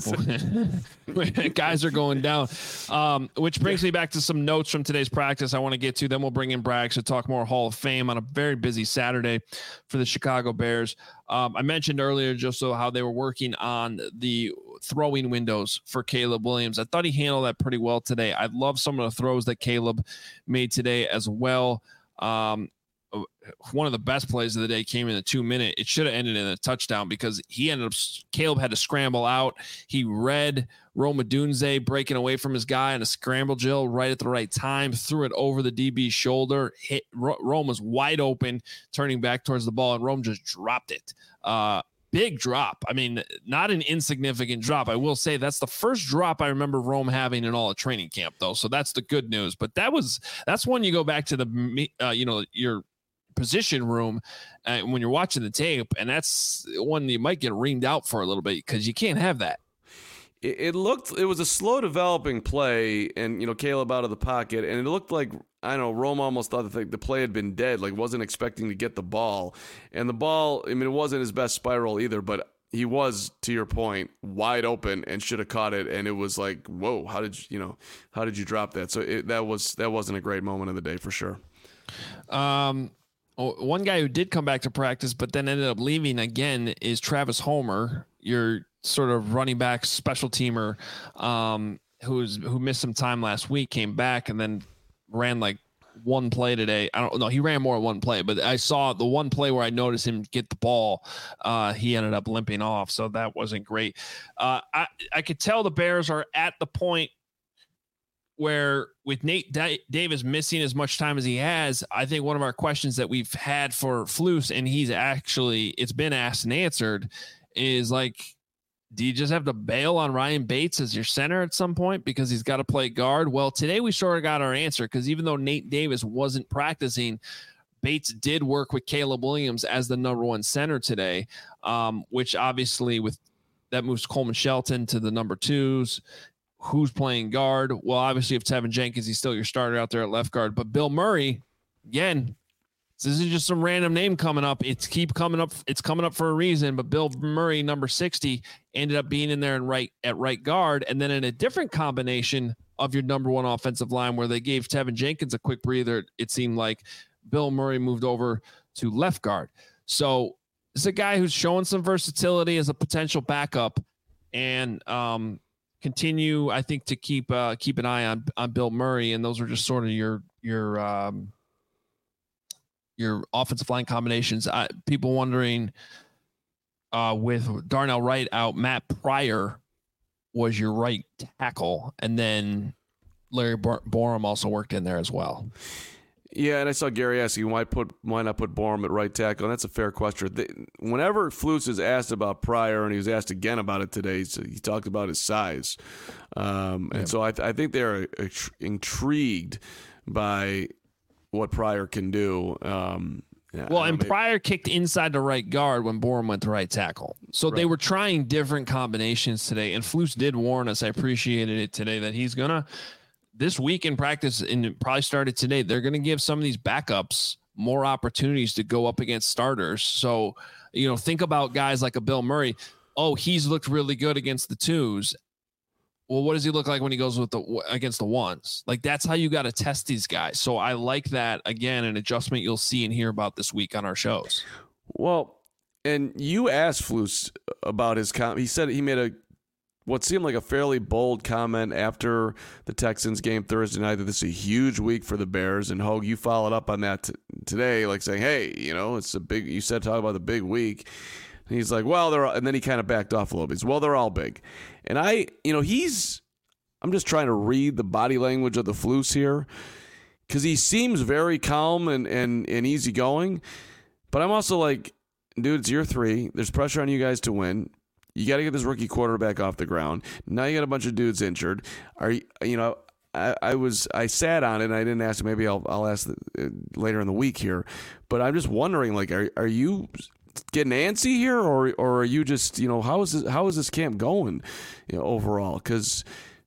guys are going down, um, which brings me back to some notes from today's practice I want to get to. Then we'll bring in Braggs to talk more Hall of Fame on a very busy Saturday for the Chicago Bears. Um, I mentioned earlier just so how they were working on the throwing windows for Caleb Williams. I thought he handled that pretty well today. I love some of the throws that Caleb made today as well. Um, one of the best plays of the day came in the two minute. It should have ended in a touchdown because he ended up, Caleb had to scramble out. He read Rome Odunze breaking away from his guy on a scramble drill right at the right time, threw it over the D B's shoulder, hit Rome was wide open, turning back towards the ball, and Rome just dropped it. Uh, big drop. I mean, not an insignificant drop. I will say that's the first drop I remember Rome having in all of training camp though. So that's the good news, but that was, that's when you go back to the, uh, you know, your position room uh, when you're watching the tape, and that's one you might get reamed out for a little bit because you can't have that. It, it looked, it was a slow developing play, and you know Caleb out of the pocket, and it looked like I don't know Rome almost thought that the play had been dead, like wasn't expecting to get the ball, and the ball. I mean, it wasn't his best spiral either, but he was, to your point, wide open and should have caught it, and it was like, whoa, how did you, you know, how did you drop that? So it, that was that wasn't a great moment of the day for sure. Um. One guy who did come back to practice but then ended up leaving again is Travis Homer, your sort of running back special teamer, um, who's who missed some time last week, came back and then ran like one play today. I don't know. He ran more than one play, but I saw the one play where I noticed him get the ball. Uh, he ended up limping off, so that wasn't great. Uh, I, I could tell the Bears are at the point where with Nate D- Davis missing as much time as he has, I think one of our questions that we've had for Flus, and he's actually, it's been asked and answered, is like, do you just have to bail on Ryan Bates as your center at some point because he's got to play guard? Well, today we sort of got our answer because even though Nate Davis wasn't practicing, Bates did work with Caleb Williams as the number one center today, um, which obviously with that moves Coleman Shelton to the number twos. Who's playing guard? Well, obviously, if Tevin Jenkins, he's still your starter out there at left guard. But Bill Murray, again, this isn't just some random name coming up. It's keep coming up. It's coming up for a reason. But Bill Murray, number sixty, ended up being in there and right at right guard, and then in a different combination of your number one offensive line, where they gave Tevin Jenkins a quick breather. It seemed like Bill Murray moved over to left guard. So it's a guy who's showing some versatility as a potential backup, and um. continue, I think, to keep uh, keep an eye on on Bill Murray, and those are just sort of your your um, your offensive line combinations. I, people wondering uh, with Darnell Wright out, Matt Pryor was your right tackle, and then Larry Borom also worked in there as well. Yeah, and I saw Gary asking why put why not put Borom at right tackle, and that's a fair question. They, whenever Flus is asked about Pryor, and he was asked again about it today, so he talked about his size, um, and yeah. so I, th- I think they're intrigued by what Pryor can do. Um, yeah, well, and maybe. Pryor kicked inside the right guard when Borom went to right tackle, so right. they were trying different combinations today. And Flus did warn us. I appreciated it today that he's gonna. This week in practice, and it probably started today, they're going to give some of these backups more opportunities to go up against starters. So, you know, think about guys like a Bill Murray. Oh, he's looked really good against the twos. Well, what does he look like when he goes with the against the ones? Like, that's how you got to test these guys. So I like that, again, an adjustment you'll see and hear about this week on our shows. Well, and you asked Flus about his com- he said he made a what seemed like a fairly bold comment after the Texans game Thursday night that this is a huge week for the Bears. And Hogue, you followed up on that t- today, like saying, hey, you know, it's a big, you said talk about the big week. And he's like, well, they're, all, and then he kind of backed off a little bit. He's, well, they're all big. And I, you know, he's, I'm just trying to read the body language of the Flus here because he seems very calm and, and, and easygoing. But I'm also like, dude, it's year three. There's pressure on you guys to win. You got to get this rookie quarterback off the ground. Now you got a bunch of dudes injured. Are you, you know, I, I was, I sat on it and I didn't ask. Maybe I'll, I'll ask the, uh, later in the week here. But I'm just wondering, like, are, are you getting antsy here, or, or are you just, you know, how is this, how is this camp going, you know, overall? Because,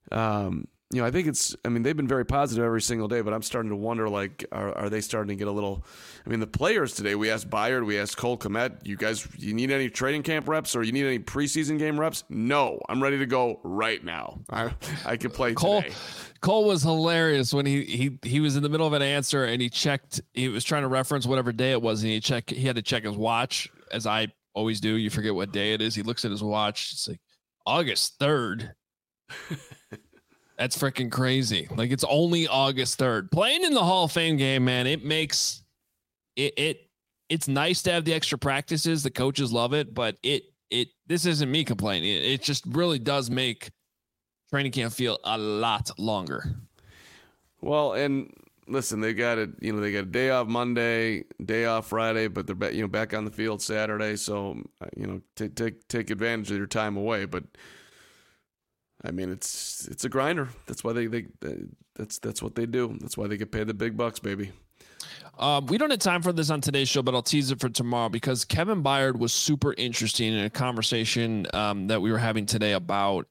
um, you know, I think it's, I mean, they've been very positive every single day, but I'm starting to wonder, like, are, are they starting to get a little, I mean, the players today, we asked Byard, we asked Cole Kmet, you guys, you need any training camp reps or you need any preseason game reps? No, I'm ready to go right now. I, I can play Cole, today. Cole was hilarious when he, he, he was in the middle of an answer and he checked, he was trying to reference whatever day it was. And he checked, he had to check his watch, as I always do. You forget what day it is. He looks at his watch. It's like August third. That's freaking crazy. Like, it's only August third. Playing in the Hall of Fame game, man, it makes it, it it's nice to have the extra practices. The coaches love it, but it it this isn't me complaining. It, it just really does make training camp feel a lot longer. Well, and listen, they got it, you know, they got a day off Monday, day off Friday, but they're back, you know, back on the field Saturday, so you know, take take take advantage of your time away, but I mean, it's it's a grinder. That's why they, they that's that's what they do. That's why they get paid the big bucks, baby. Um, we don't have time for this on today's show, but I'll tease it for tomorrow because Kevin Byard was super interesting in a conversation um, that we were having today about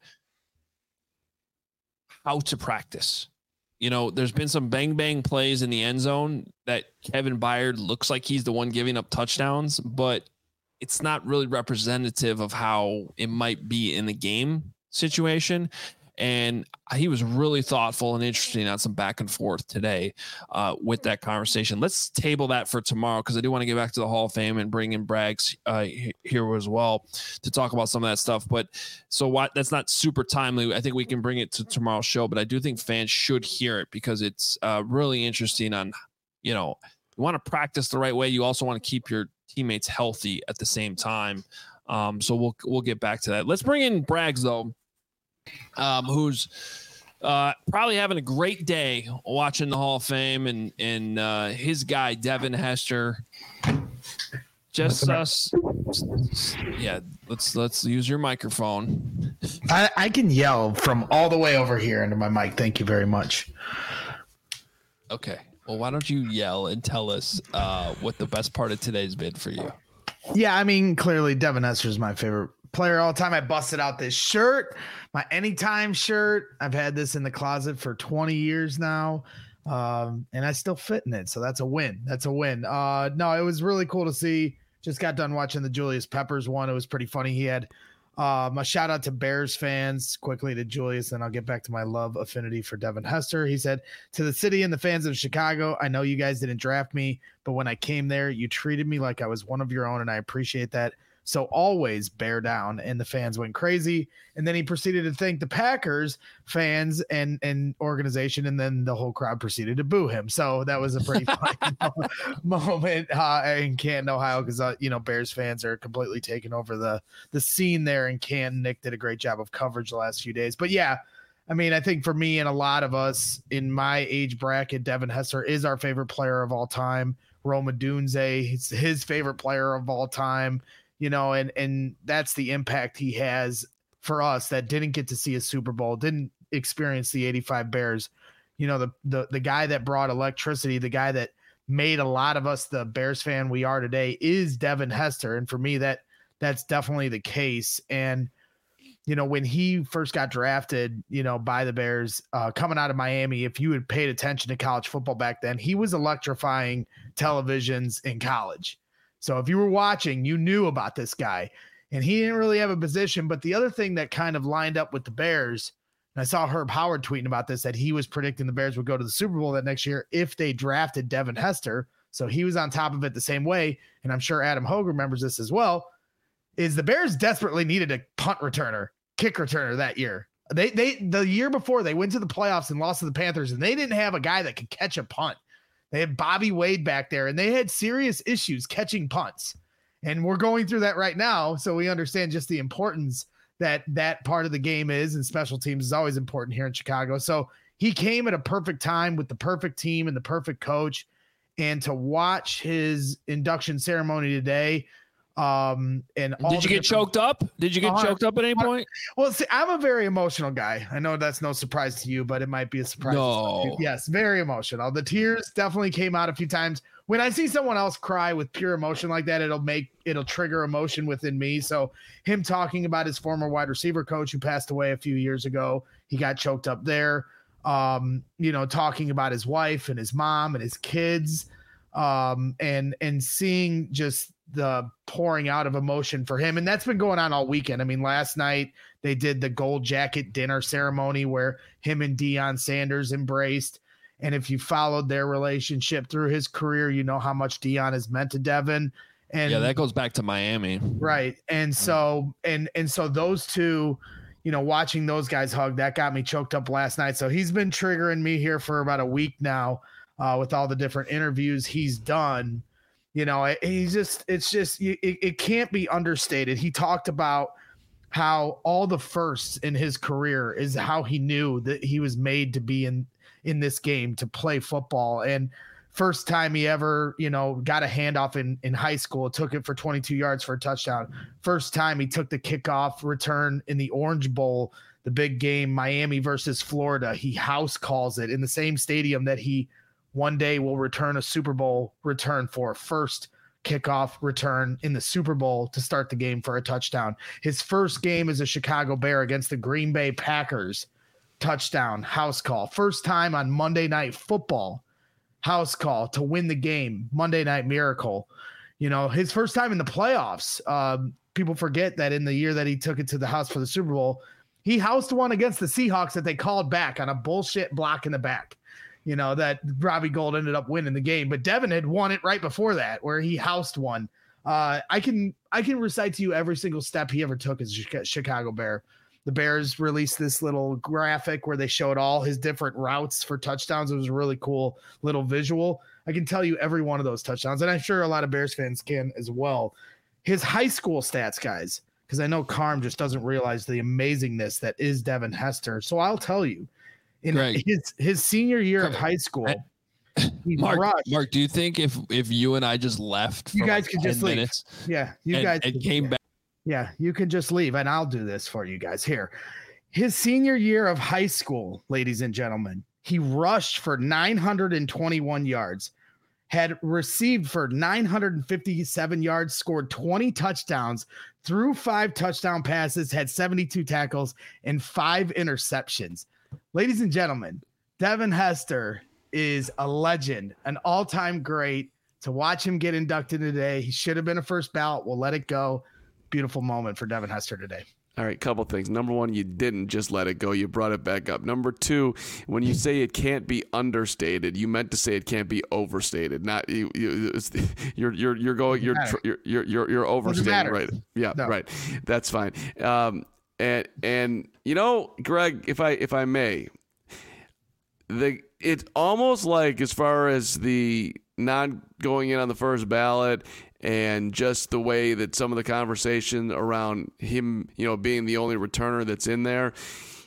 how to practice. You know, there's been some bang bang plays in the end zone that Kevin Byard looks like he's the one giving up touchdowns, but it's not really representative of how it might be in the game situation. And he was really thoughtful and interesting on some back and forth today uh, with that conversation. Let's table that for tomorrow because I do want to get back to the Hall of Fame and bring in Braggs uh, here as well to talk about some of that stuff. But so what? That's not super timely. I think we can bring it to tomorrow's show, but I do think fans should hear it because it's uh, really interesting on, you know, you want to practice the right way. You also want to keep your teammates healthy at the same time. Um, so we'll we'll get back to that. Let's bring in Braggs though. Um, who's uh, probably having a great day watching the Hall of Fame, and and uh, his guy Devin Hester. Just us, yeah. Let's let's use your microphone. I, I can yell from all the way over here into my mic. Thank you very much. Okay. Well, why don't you yell and tell us uh, what the best part of today's been for you? Yeah, I mean, clearly Devin Hester is my favorite player all the time. I busted out this shirt, my anytime shirt. I've had this in the closet for twenty years now, um, and I still fit in it. So that's a win. That's a win. Uh, no, it was really cool to see. Just got done watching the Julius Peppers one. It was pretty funny. He had um, a shout out to Bears fans quickly to Julius, and I'll get back to my love affinity for Devin Hester. He said, to the city and the fans of Chicago, I know you guys didn't draft me, but when I came there, you treated me like I was one of your own, and I appreciate that. So always bear down. And the fans went crazy. And then he proceeded to thank the Packers fans and, and organization. And then the whole crowd proceeded to boo him. So that was a pretty funny moment uh, in Canton, Ohio, because, uh, you know, Bears fans are completely taking over the, the scene there in Canton. Nick did a great job of coverage the last few days. But yeah, I mean, I think for me and a lot of us in my age bracket, Devin Hester is our favorite player of all time. Rome Odunze, it's his favorite player of all time, you know, and, and that's the impact he has for us that didn't get to see a Super Bowl, didn't experience the eighty-five Bears. You know, the, the, the guy that brought electricity, the guy that made a lot of us the Bears fan we are today is Devin Hester. And for me, that that's definitely the case. And, you know, when he first got drafted, you know, by the Bears uh, coming out of Miami, if you had paid attention to college football back then, he was electrifying televisions in college. So if you were watching, you knew about this guy, and he didn't really have a position. But the other thing that kind of lined up with the Bears, and I saw Herb Howard tweeting about this, that he was predicting the Bears would go to the Super Bowl that next year if they drafted Devin Hester. So he was on top of it the same way. And I'm sure Adam Hogue remembers this as well, is the Bears desperately needed a punt returner, kick returner that year. They they the year before they went to the playoffs and lost to the Panthers, and they didn't have a guy that could catch a punt. They had Bobby Wade back there, and they had serious issues catching punts. And we're going through that right now, so we understand just the importance that that part of the game is, and special teams is always important here in Chicago. So he came at a perfect time with the perfect team and the perfect coach. And to watch his induction ceremony today, Um, and all did you get choked up? Did you get uh, choked up at any point? Well, see, I'm a very emotional guy. I know that's no surprise to you, but it might be a surprise. No. Yes, very emotional. The tears definitely came out a few times. When I see someone else cry with pure emotion like that, it'll make it'll trigger emotion within me. So him talking about his former wide receiver coach who passed away a few years ago, he got choked up there. Um, you know, talking about his wife and his mom and his kids, um, and and seeing just the pouring out of emotion for him. And that's been going on all weekend. I mean, last night they did the gold jacket dinner ceremony where him and Deion Sanders embraced. And if you followed their relationship through his career, you know how much Deion has meant to Devin. And yeah, that goes back to Miami. Right. And so, and, and so those two, you know, watching those guys hug, that got me choked up last night. So he's been triggering me here for about a week now uh, with all the different interviews he's done. You know, he's just, it's just, it, it can't be understated. He talked about how all the firsts in his career is how he knew that he was made to be in, in this game, to play football. And first time he ever, you know, got a handoff in, in high school, took it for twenty-two yards for a touchdown. First time he took the kickoff return in the Orange Bowl, the big game, Miami versus Florida. He house calls it in the same stadium that he one day will return a Super Bowl return for. First kickoff return in the Super Bowl to start the game for a touchdown. His first game as a Chicago Bear against the Green Bay Packers, touchdown, house call. First time on Monday Night Football, house call to win the game, Monday Night Miracle. You know, his first time in the playoffs. Um, people forget that in the year that he took it to the house for the Super Bowl, he housed one against the Seahawks that they called back on a bullshit block in the back. You know, that Robbie Gould ended up winning the game, but Devin had won it right before that, where he housed one. Uh, I can I can recite to you every single step he ever took as a Chicago Bear. The Bears released this little graphic where they showed all his different routes for touchdowns. It was a really cool little visual. I can tell you every one of those touchdowns, and I'm sure a lot of Bears fans can as well. His high school stats, guys, because I know Carm just doesn't realize the amazingness that is Devin Hester. So I'll tell you. In Greg, his his senior year of high school, he Mark, rushed. Mark, do you think if if you and I just left, you for guys like could ten just leave? minutes Yeah, you and, guys and could, came yeah. back? Yeah, you can just leave, and I'll do this for you guys here. His senior year of high school, ladies and gentlemen, he rushed for nine hundred twenty-one yards, had received for nine hundred fifty-seven yards, scored twenty touchdowns, threw five touchdown passes, had seventy-two tackles, and five interceptions. Ladies and gentlemen, Devin Hester is a legend, an all-time great. To watch him get inducted today, he should have been a first ballot. We'll let it go. Beautiful moment for Devin Hester today. All right, couple things. Number one, you didn't just let it go. You brought it back up. Number two, when you say it can't be understated, you meant to say it can't be overstated. Not you. you it's, you're you're you're going. You're you're you're you're, you're overstating. Right? Yeah. No. Right. That's fine. Um. And and you know, Greg, if I if I may, the it's almost like as far as the not going in on the first ballot and just the way that some of the conversation around him, you know, being the only returner that's in there,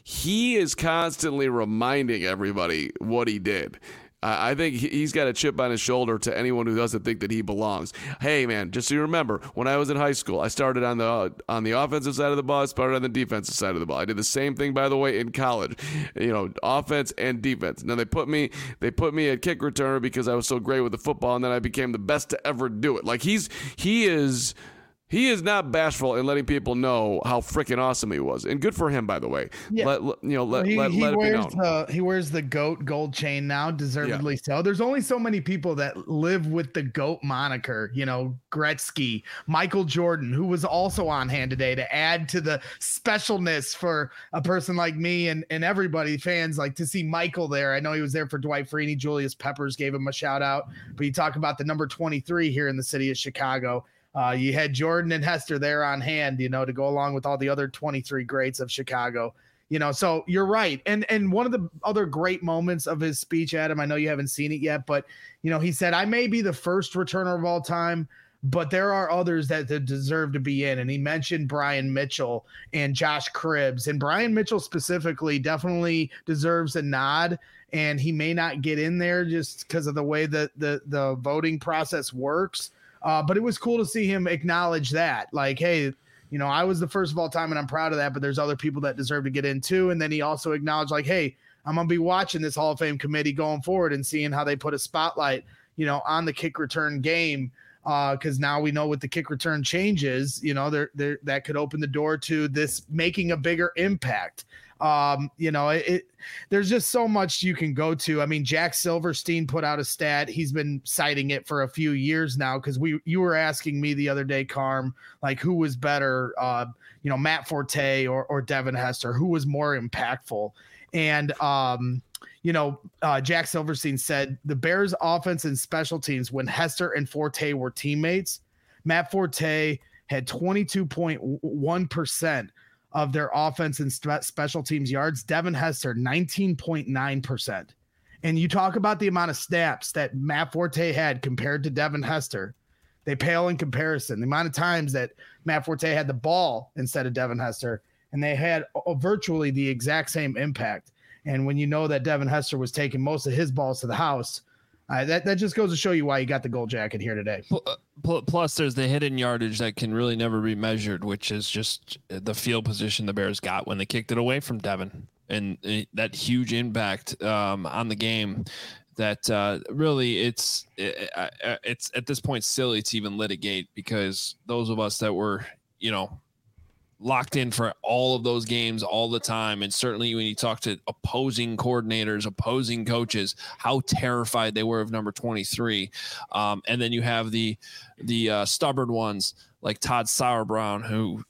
he is constantly reminding everybody what he did. I think he's got a chip on his shoulder to anyone who doesn't think that he belongs. Hey, man, just so you remember, when I was in high school, I started on the uh, on the offensive side of the ball, I started on the defensive side of the ball. I did the same thing, by the way, in college. You know, offense and defense. Now they put me they put me at kick returner because I was so great with the football, and then I became the best to ever do it. Like he's he is. He is not bashful in letting people know how freaking awesome he was, and good for him, by the way. Yeah. Let, let you know, let, he, let, he let it wears be known. The, he wears the GOAT gold chain now, deservedly yeah. so. There's only so many people that live with the GOAT moniker. You know, Gretzky, Michael Jordan, who was also on hand today to add to the specialness for a person like me and, and everybody, fans, like to see Michael there. I know he was there for Dwight Freeney. Julius Peppers gave him a shout out, but you talk about the number twenty-three here in the city of Chicago. Uh, you had Jordan and Hester there on hand, you know, to go along with all the other twenty-three greats of Chicago, you know, so you're right. And, and one of the other great moments of his speech, Adam, I know you haven't seen it yet, but, you know, he said, I may be the first returner of all time, but there are others that, that deserve to be in. And he mentioned Brian Mitchell and Josh Cribbs, and Brian Mitchell specifically definitely deserves a nod. And he may not get in there just because of the way that the, the voting process works. Uh, but it was cool to see him acknowledge that, like, hey, you know, I was the first of all time and I'm proud of that, but there's other people that deserve to get in too. And then he also acknowledged, like, hey, I'm going to be watching this Hall of Fame committee going forward and seeing how they put a spotlight, you know, on the kick return game. Uh, because now we know with the kick return changes, you know, there there that could open the door to this making a bigger impact. Um, you know, it, it there's just so much you can go to. I mean, Jack Silverstein put out a stat. He's been citing it for a few years now because we you were asking me the other day, Carm, like who was better, uh, you know, Matt Forte or or Devin Hester, who was more impactful. And um, you know, uh, Jack Silverstein said the Bears offense and special teams when Hester and Forte were teammates, Matt Forte had twenty-two point one percent of their offense and spe- special teams yards. Devin Hester, nineteen point nine percent. And you talk about the amount of snaps that Matt Forte had compared to Devin Hester. They pale in comparison. The amount of times that Matt Forte had the ball instead of Devin Hester, and they had uh, virtually the exact same impact. And when you know that Devin Hester was taking most of his balls to the house, uh, that, that just goes to show you why you got the gold jacket here today. Plus, there's the hidden yardage that can really never be measured, which is just the field position the Bears got when they kicked it away from Devin. And that huge impact um, on the game that uh, really it's it, it's at this point silly to even litigate, because those of us that were, you know, locked in for all of those games all the time. And certainly when you talk to opposing coordinators, opposing coaches, how terrified they were of number twenty-three. Um, and then you have the, the uh, stubborn ones like Todd Sauerbrown, who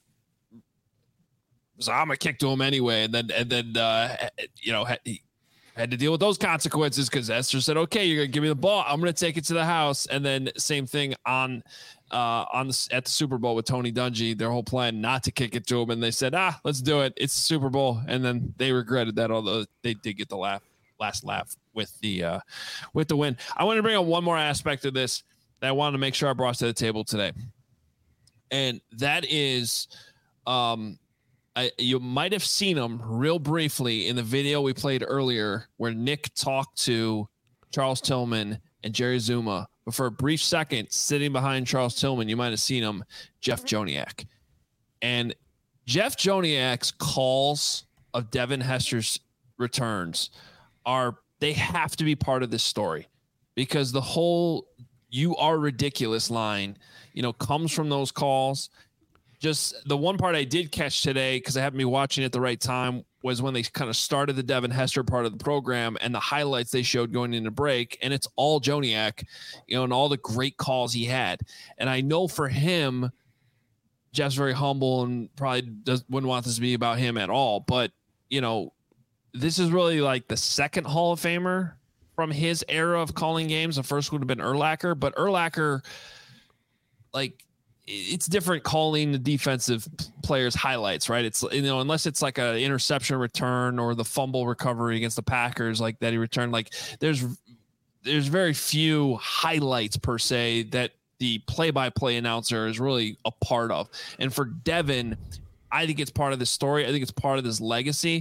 was, I'm going to kick to him anyway. And then, and then, uh, you know, he had to deal with those consequences because Esther said, okay, you're going to give me the ball, I'm going to take it to the house. And then same thing on, Uh, on the at the Super Bowl with Tony Dungy, their whole plan not to kick it to him, and they said, ah, let's do it. It's the Super Bowl, and then they regretted that. Although they did get the laugh, last laugh with the uh, with the win. I want to bring up one more aspect of this that I wanted to make sure I brought to the table today, and that is, um, I, you might have seen him real briefly in the video we played earlier, where Nick talked to Charles Tillman and Jerry Zuma. But for a brief second, sitting behind Charles Tillman, you might have seen him, Jeff Joniak. And Jeff Joniak's calls of Devin Hester's returns are, they have to be part of this story, because the whole "you are ridiculous" line, you know, comes from those calls. Just the one part I did catch today, because I happened to be watching at the right time, was when they kind of started the Devin Hester part of the program and the highlights they showed going into break. And it's all Joniak, you know, and all the great calls he had. And I know for him, Jeff's very humble and probably does, wouldn't want this to be about him at all. But, you know, this is really like the second Hall of Famer from his era of calling games. The first would have been Urlacher, but Urlacher, like, it's different calling the defensive players' highlights, right? It's, you know, unless it's like an interception return or the fumble recovery against the Packers, like that he returned, like there's, there's very few highlights per se that the play-by-play announcer is really a part of. And for Devin, I think it's part of the story. I think it's part of this legacy.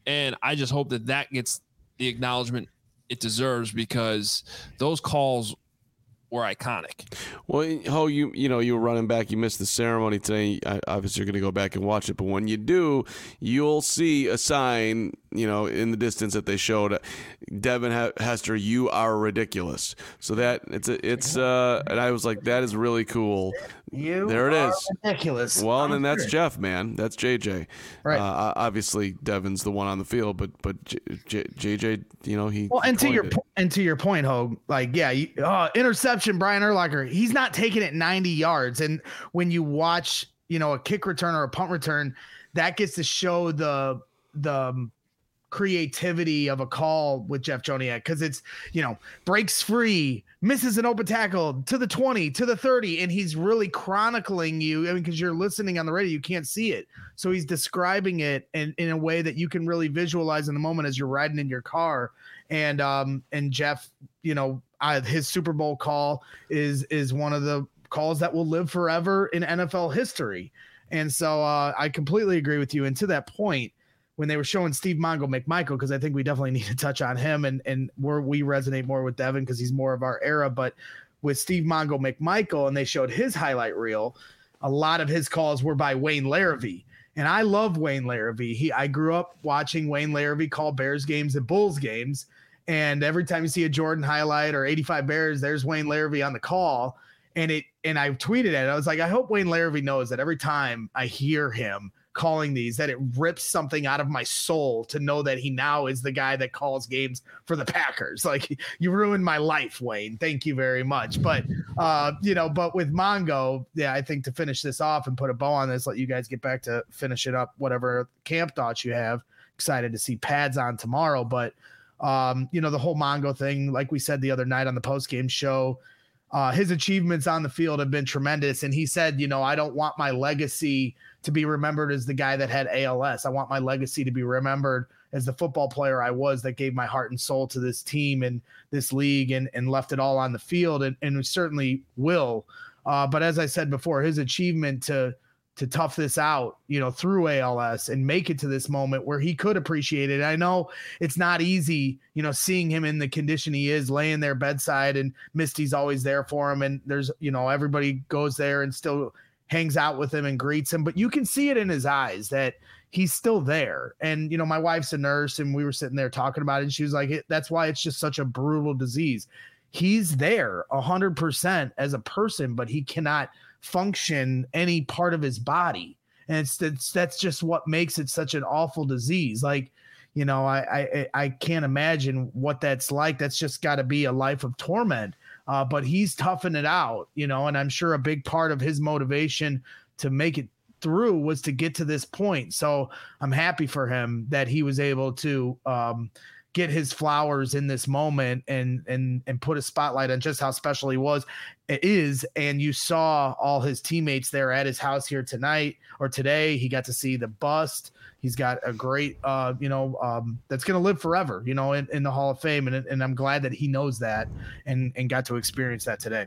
And I just hope that that gets the acknowledgement it deserves, because those calls were iconic. Well, Ho, you you know, you were running back. You missed the ceremony today. I, obviously, you're going to go back and watch it. But when you do, you'll see a sign, you know, in the distance that they showed. Devin Hester, you are ridiculous. So that it's a, it's uh, and I was like, that is really cool. You there it are is. Ridiculous. Well, I'm and then that's sure. Jeff, man. That's J J. Right. Uh, obviously, Devin's the one on the field, but but J, J, J J, you know, he. Well, and to your it. po- and to your point, Hogue, like, yeah, you, uh, interception, Brian Urlacher, he's not taking it ninety yards. And when you watch, you know, a kick return or a punt return, that gets to show the the um, creativity of a call with Jeff Joniak, because it's, you know, breaks free, misses an open tackle to the twenty, to the thirty, and he's really chronicling you. I mean, because you're listening on the radio, you can't see it, so he's describing it in, in a way that you can really visualize in the moment as you're riding in your car. And um and Jeff, you know, uh, his Super Bowl call is is one of the calls that will live forever in N F L history. And so uh, I completely agree with you. And to that point, when they were showing Steve Mongo McMichael, because I think we definitely need to touch on him, and and where we resonate more with Devin because he's more of our era. But with Steve Mongo McMichael, and they showed his highlight reel, a lot of his calls were by Wayne Larrivee. And I love Wayne Larrivee. He I grew up watching Wayne Larrivee call Bears games and Bulls games. And every time you see a Jordan highlight or eighty-five Bears, there's Wayne Larrivee on the call. And it and I tweeted it. I was like, I hope Wayne Larrivee knows that every time I hear him calling these, that it rips something out of my soul to know that he now is the guy that calls games for the Packers. Like, you ruined my life, Wayne. Thank you very much. But, uh, you know, but with Mongo, yeah, I think to finish this off and put a bow on this, let you guys get back to finish it up, whatever camp thoughts you have. Excited to see pads on tomorrow. But, um, you know, the whole Mongo thing, like we said the other night on the post-game show, uh, his achievements on the field have been tremendous. And he said, you know, I don't want my legacy to be remembered as the guy that had A L S. I want my legacy to be remembered as the football player I was that gave my heart and soul to this team and this league and, and left it all on the field. And, and we certainly will. Uh, but as I said before, his achievement to, to tough this out, you know, through A L S and make it to this moment where he could appreciate it. I know it's not easy, you know, seeing him in the condition he is, laying there bedside, and Misty's always there for him. And there's, you know, everybody goes there and still hangs out with him and greets him, but you can see it in his eyes that he's still there. And, you know, my wife's a nurse and we were sitting there talking about it, and she was like, that's why it's just such a brutal disease. He's there a hundred percent as a person, but he cannot function any part of his body. And it's, it's that's just what makes it such an awful disease. Like, you know, I, I, I can't imagine what that's like. That's just got to be a life of torment. Uh, but he's toughing it out, you know, and I'm sure a big part of his motivation to make it through was to get to this point. So I'm happy for him that he was able to um, get his flowers in this moment and and and put a spotlight on just how special he was is. And you saw all his teammates there at his house here tonight or today. He got to see the bust. He's got a great, uh, you know, um, that's going to live forever, you know, in, in the Hall of Fame. And, and I'm glad that he knows that and, and got to experience that today.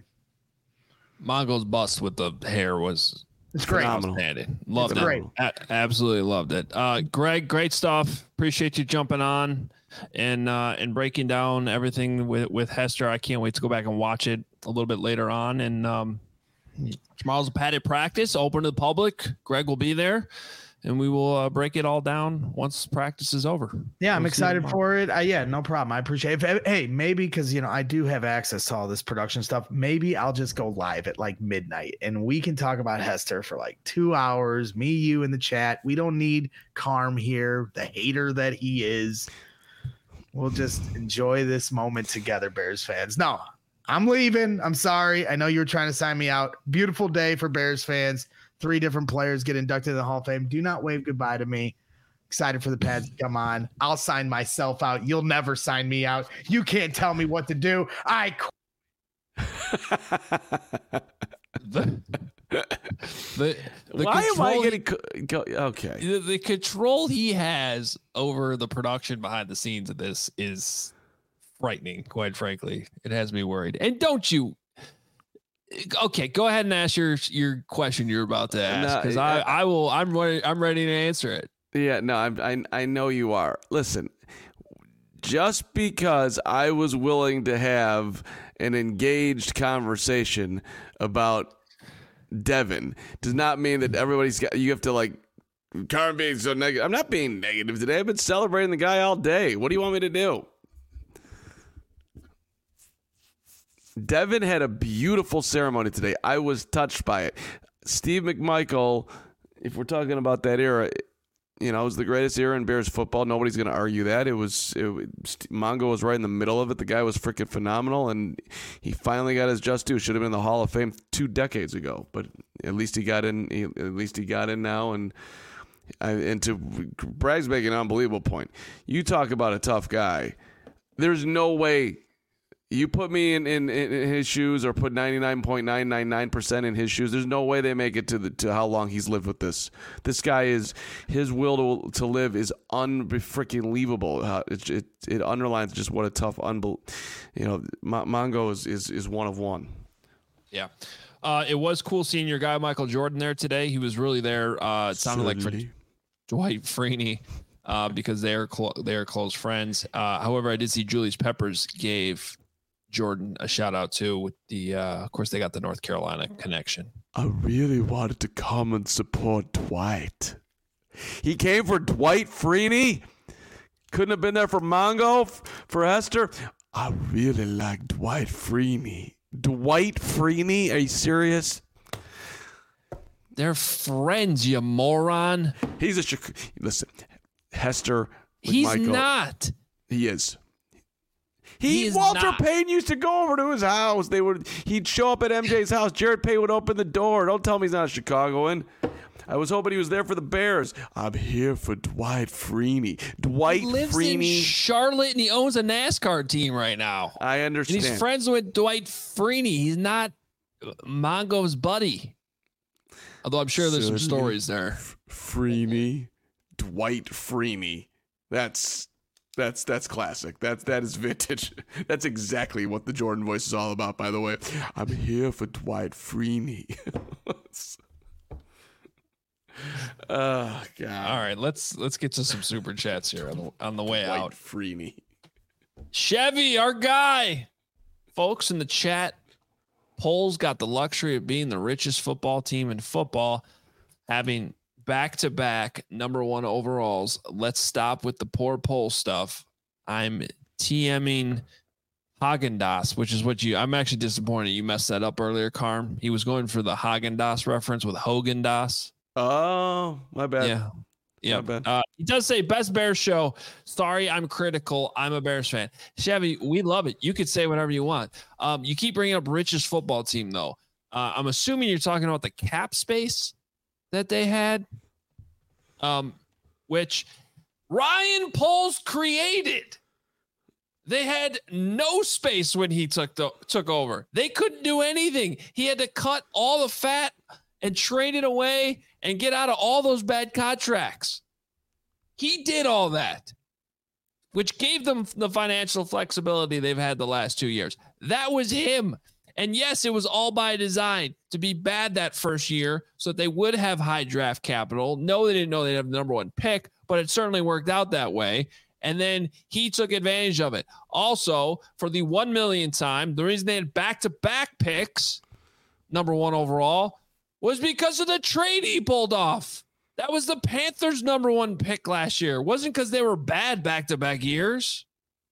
Mongo's bust with the hair was it's great. Outstanding. Loved it's it. Great. A- absolutely loved it. Uh, Greg, great stuff. Appreciate you jumping on and uh, and breaking down everything with, with Hester. I can't wait to go back and watch it a little bit later on. And um, tomorrow's a padded practice, open to the public. Greg will be there. And we will uh, break it all down once practice is over. Yeah, I'm we'll excited for it. Uh, yeah, no problem. I appreciate it. Hey, maybe because, you know, I do have access to all this production stuff. Maybe I'll just go live at like midnight and we can talk about Hester for like two hours. Me, you in the chat. We don't need Carm here, the hater that he is. We'll just enjoy this moment together, Bears fans. No, I'm leaving. I'm sorry. I know you were trying to sign me out. Beautiful day for Bears fans. Three different players get inducted to the Hall of Fame. Do not wave goodbye to me. Excited for the pads to come on. I'll sign myself out. You'll never sign me out. You can't tell me what to do. I qu- the, the, the Why am I control- getting co- go, okay? The, the control he has over the production behind the scenes of this is frightening, quite frankly. It has me worried. And don't you Okay, go ahead and ask your your question you're about to ask, because no, I, I I will I'm ready I'm ready to answer it. Yeah, no, I'm, I I know you are. Listen, just because I was willing to have an engaged conversation about Devin does not mean that everybody's got. You have to like. Carm being so negative. I'm not being negative today. I've been celebrating the guy all day. What do you want me to do? Devin had a beautiful ceremony today. I was touched by it. Steve McMichael, if we're talking about that era, you know, it was the greatest era in Bears football. Nobody's going to argue that. It was, it, Mongo was right in the middle of it. The guy was freaking phenomenal, and he finally got his just due. Should have been in the Hall of Fame two decades ago, but at least he got in. He, at least he got in now, and and to Bragg's making an unbelievable point. You talk about a tough guy. There's no way. You put me in, in, in his shoes or put ninety-nine point nine nine nine percent in his shoes, there's no way they make it to the to how long he's lived with this. This guy is, his will to, to live is un-freaking-leavable. Uh, it, it, it underlines just what a tough, unbel- you know, Mongo is, is, is one of one. Yeah. Uh, it was cool seeing your guy, Michael Jordan, there today. He was really there. Uh, it sounded Certainly. like for Dwight Freeney. Uh, because they're clo- they're close friends. Uh, however, I did see Julius Peppers gave Jordan a shout out too with the uh, of course they got the North Carolina connection. I really wanted to come and support Dwight. He came for Dwight Freeney. Couldn't have been there for Mongo, for Hester. I really like Dwight Freeney. Dwight Freeney? Are you serious? They're friends, you moron. He's a listen. Hester. He's Michael, not. He is. He, he is Walter not. Payton used to go over to his house. They would. He'd show up at M J's house. Jared Payton would open the door. Don't tell me he's not a Chicagoan. I was hoping he was there for the Bears. I'm here for Dwight Freeney. Dwight he lives Freeney. in Charlotte, and he owns a NASCAR team right now. I understand. And he's friends with Dwight Freeney. He's not Mongo's buddy. Although I'm sure there's some stories there. Freeney. Dwight Freeney. That's that's that's classic. That's that is vintage. That's exactly what the Jordan voice is all about, by the way. I'm here for Dwight Freeney. Oh God. All right, let's let's get to some super chats here on the, on the way Dwight out. Freeney. Chevy, our guy. Folks in the chat, Poles got the luxury of being the richest football team in football, having back-to-back number one overalls. Let's stop with the poor poll stuff. I'm TMing Haagen-Dazs, which is what you, I'm actually disappointed you messed that up earlier, Carm. He was going for the Haagen-Dazs reference with Hogan-Dazs. Oh, my bad. Yeah. Yeah. My bad. Uh, he does say best Bears show. Sorry, I'm critical. I'm a Bears fan. Chevy, we love it. You could say whatever you want. Um, you keep bringing up richest football team, though. Uh, I'm assuming you're talking about the cap space that they had, um, which Ryan Poles created. They had no space when he took the, took over. They couldn't do anything. He had to cut all the fat and trade it away and get out of all those bad contracts. He did all that, which gave them the financial flexibility they've had the last two years. That was him. And yes, it was all by design to be bad that first year so that they would have high draft capital. No, they didn't know they'd have the number one pick, but it certainly worked out that way. And then he took advantage of it. Also, for the one millionth time, the reason they had back-to-back picks, number one overall, was because of the trade he pulled off. That was the Panthers' number one pick last year. It wasn't because they were bad back-to-back years.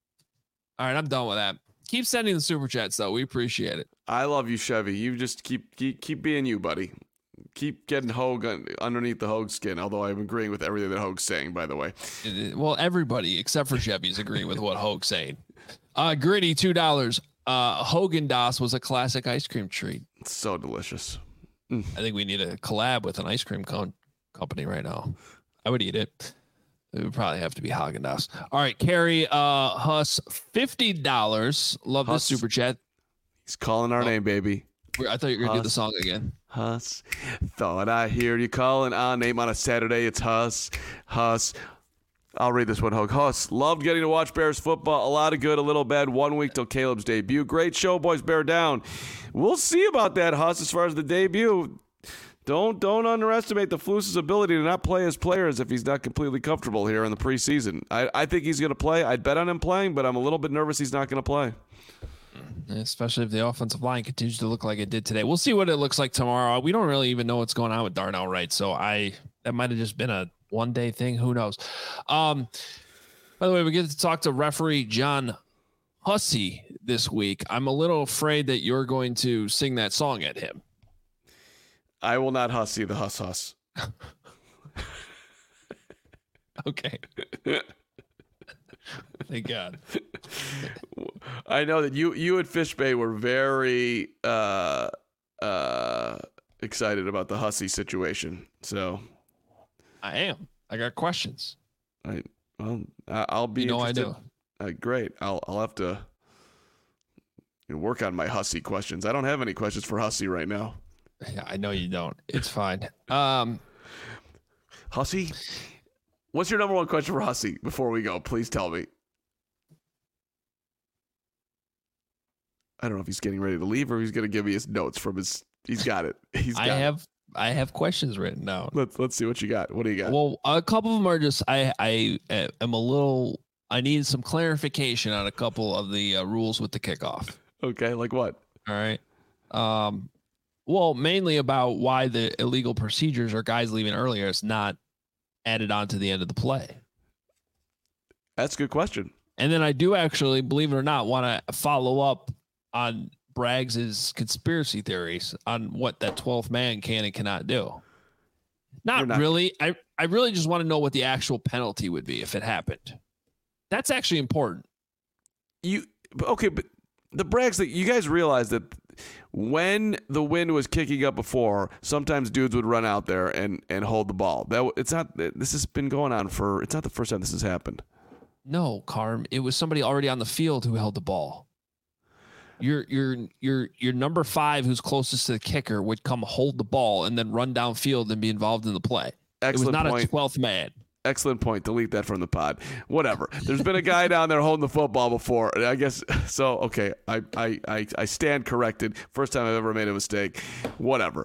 All right, I'm done with that. Keep sending the super chats, though. We appreciate it. I love you, Chevy. You just keep keep, keep being you, buddy. Keep getting Hogue underneath the Hogue skin, although I'm agreeing with everything that Hogue's saying, by the way. Well, everybody except for Chevy is agreeing with what Hogue's saying. Uh, Gritty, two dollars. Uh, Haagen-Dazs was a classic ice cream treat. It's so delicious. Mm. I think we need a collab with an ice cream co- company right now. I would eat it. It would probably have to be Haagen-Dazs. All right, Carrie uh, Huss, fifty dollars. Love Huss. this super chat. He's calling our oh. name, baby. I thought you were going to do the song again. Huss. Thought I hear you calling our name on a Saturday. It's Huss. Huss. I'll read this one, Hogue. Huss. Loved getting to watch Bears football. A lot of good, a little bad. One week till Caleb's debut. Great show, boys. Bear down. We'll see about that, Huss, as far as the debut. Don't don't underestimate the Flus's ability to not play his players if he's not completely comfortable here in the preseason. I, I think he's going to play. I'd bet on him playing, but I'm a little bit nervous he's not going to play. Especially if the offensive line continues to look like it did today. We'll see what it looks like tomorrow. We don't really even know what's going on with Darnell Wright, so I that might have just been a one-day thing. Who knows? Um, by the way, we get to talk to referee John Hussey this week. I'm a little afraid that you're going to sing that song at him. I will not hussy the huss huss. Okay. Thank God. I know that you you at Fish Bay were very uh, uh, excited about the hussy situation. So I am. I got questions. I well, I'll be. You know interested. I do. Uh, great. I'll I'll have to you know, work on my hussy questions. I don't have any questions for hussy right now. Yeah, I know you don't. It's fine. Um, Hussey, what's your number one question for Hussey before we go? Please tell me. I don't know if he's getting ready to leave or he's going to give me his notes from his. He's got it. He's got I have it. I have questions written down. Let's let's see what you got. What do you got? Well, a couple of them are just I I am a little. I need some clarification on a couple of the uh, rules with the kickoff. Okay, like what? All right. Um. Well, mainly about why the illegal procedures or guys leaving earlier is not added on to the end of the play. That's a good question. And then I do actually, believe it or not, want to follow up on Braggs's conspiracy theories on what that twelfth man can and cannot do. Not, not really. I, I really just want to know what the actual penalty would be if it happened. That's actually important. You okay, but the Braggs that you guys realize that when the wind was kicking up before, sometimes dudes would run out there and, and hold the ball. That it's not. This has been going on for. It's not the first time this has happened. No, Carm. It was somebody already on the field who held the ball. Your your your your number five, who's closest to the kicker, would come hold the ball and then run downfield and be involved in the play. Excellent it was not point. a twelfth man. Excellent point. Delete that from the pod. Whatever. There's been a guy down there holding the football before. I guess so. Okay. I, I, I, I stand corrected. First time I've ever made a mistake. Whatever.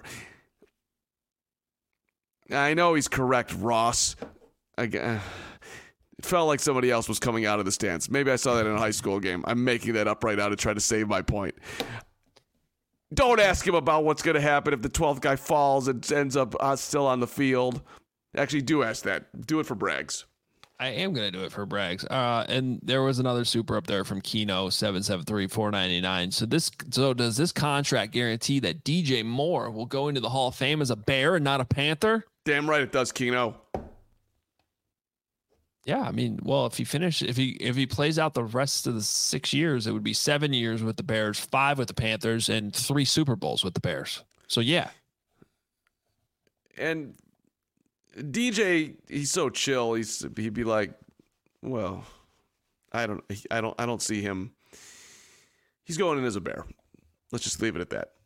I know he's correct, Ross. I, uh, it felt like somebody else was coming out of the stands. Maybe I saw that in a high school game. I'm making that up right now to try to save my point. Don't ask him about what's going to happen if the twelfth guy falls and ends up uh, still on the field. Actually, do ask that. Do it for Braggs. I am going to do it for Braggs. Uh, and there was another super up there from Keno, seven seven three, four ninety-nine. So this, so does this contract guarantee that D J Moore will go into the Hall of Fame as a Bear and not a Panther? Damn right it does, Keno. Yeah, I mean, well, if he finish, if he if he plays out the rest of the six years, it would be seven years with the Bears, five with the Panthers, and three Super Bowls with the Bears. So yeah. And D J, he's so chill. He's he'd be like, well, I don't, I don't, I don't see him. He's going in as a Bear. Let's just leave it at that.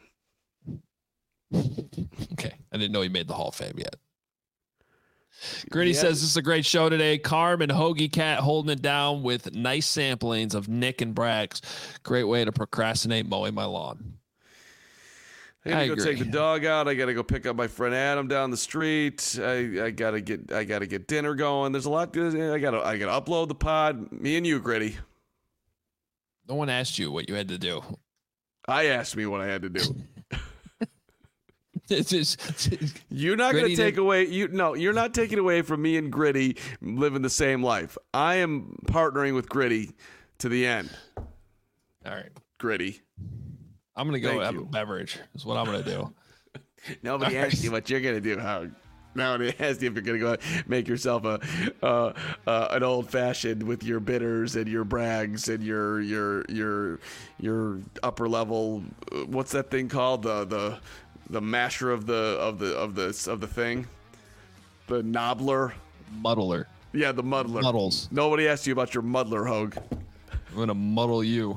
Okay, I didn't know he made the Hall of Fame yet. Gritty Yeah. says this is a great show today. Carm and Hoagie Cat holding it down with nice samplings of Nick and Braggs. Great way to procrastinate mowing my lawn. I gotta I go agree. take the dog out. I gotta go pick up my friend Adam down the street. I, I gotta get I gotta get dinner going. There's a lot. I gotta I gotta upload the pod. Me and you, Gritty. No one asked you what you had to do. I asked me what I had to do. It's just, You're not Gritty gonna take did- away. You no. You're not taking away from me and Gritty living the same life. I am partnering with Gritty to the end. all right. Gritty. I'm gonna go Thank have you. a beverage. Is what I'm gonna do. Nobody All asked right. you what you're gonna do, Howard. Nobody asked you if you're gonna go make yourself a uh, uh, an old fashioned with your bitters and your Braggs and your your your your upper level. uh, What's that thing called? The the the masher of the of the of the of the thing. The knobbler. Muddler. Yeah, the muddler. Muddles. Nobody asked you about your muddler, Hogue. I'm gonna muddle you.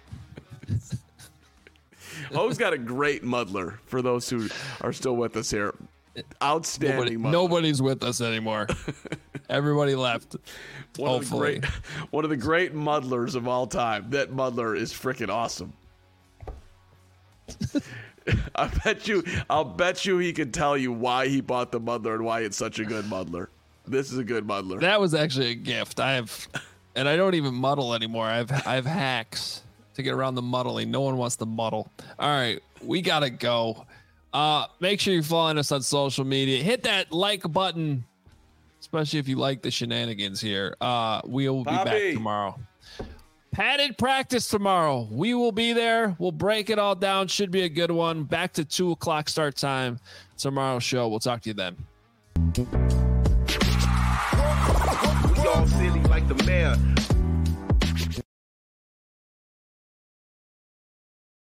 Hogue's got a great muddler for those who are still with us here. Nobody, Outstanding muddler. nobody's with us anymore. Everybody left. One of, the Hopefully. great, one of the great muddlers of all time. That muddler is freaking awesome. I bet you. I'll bet you he can tell you why he bought the muddler and why it's such a good muddler. This is a good muddler. That was actually a gift. I have, and I don't even muddle anymore. I have I have hacks to get around the muddling. No one wants to muddle. All right, we gotta go. Uh, make sure you're following us on social media. Hit that like button, especially if you like the shenanigans here. Uh, we will be Bobby. back tomorrow. Padded practice tomorrow. We will be there. We'll break it all down. Should be a good one. Back to two o'clock start time tomorrow's show. We'll talk to you then. We all silly like the mayor.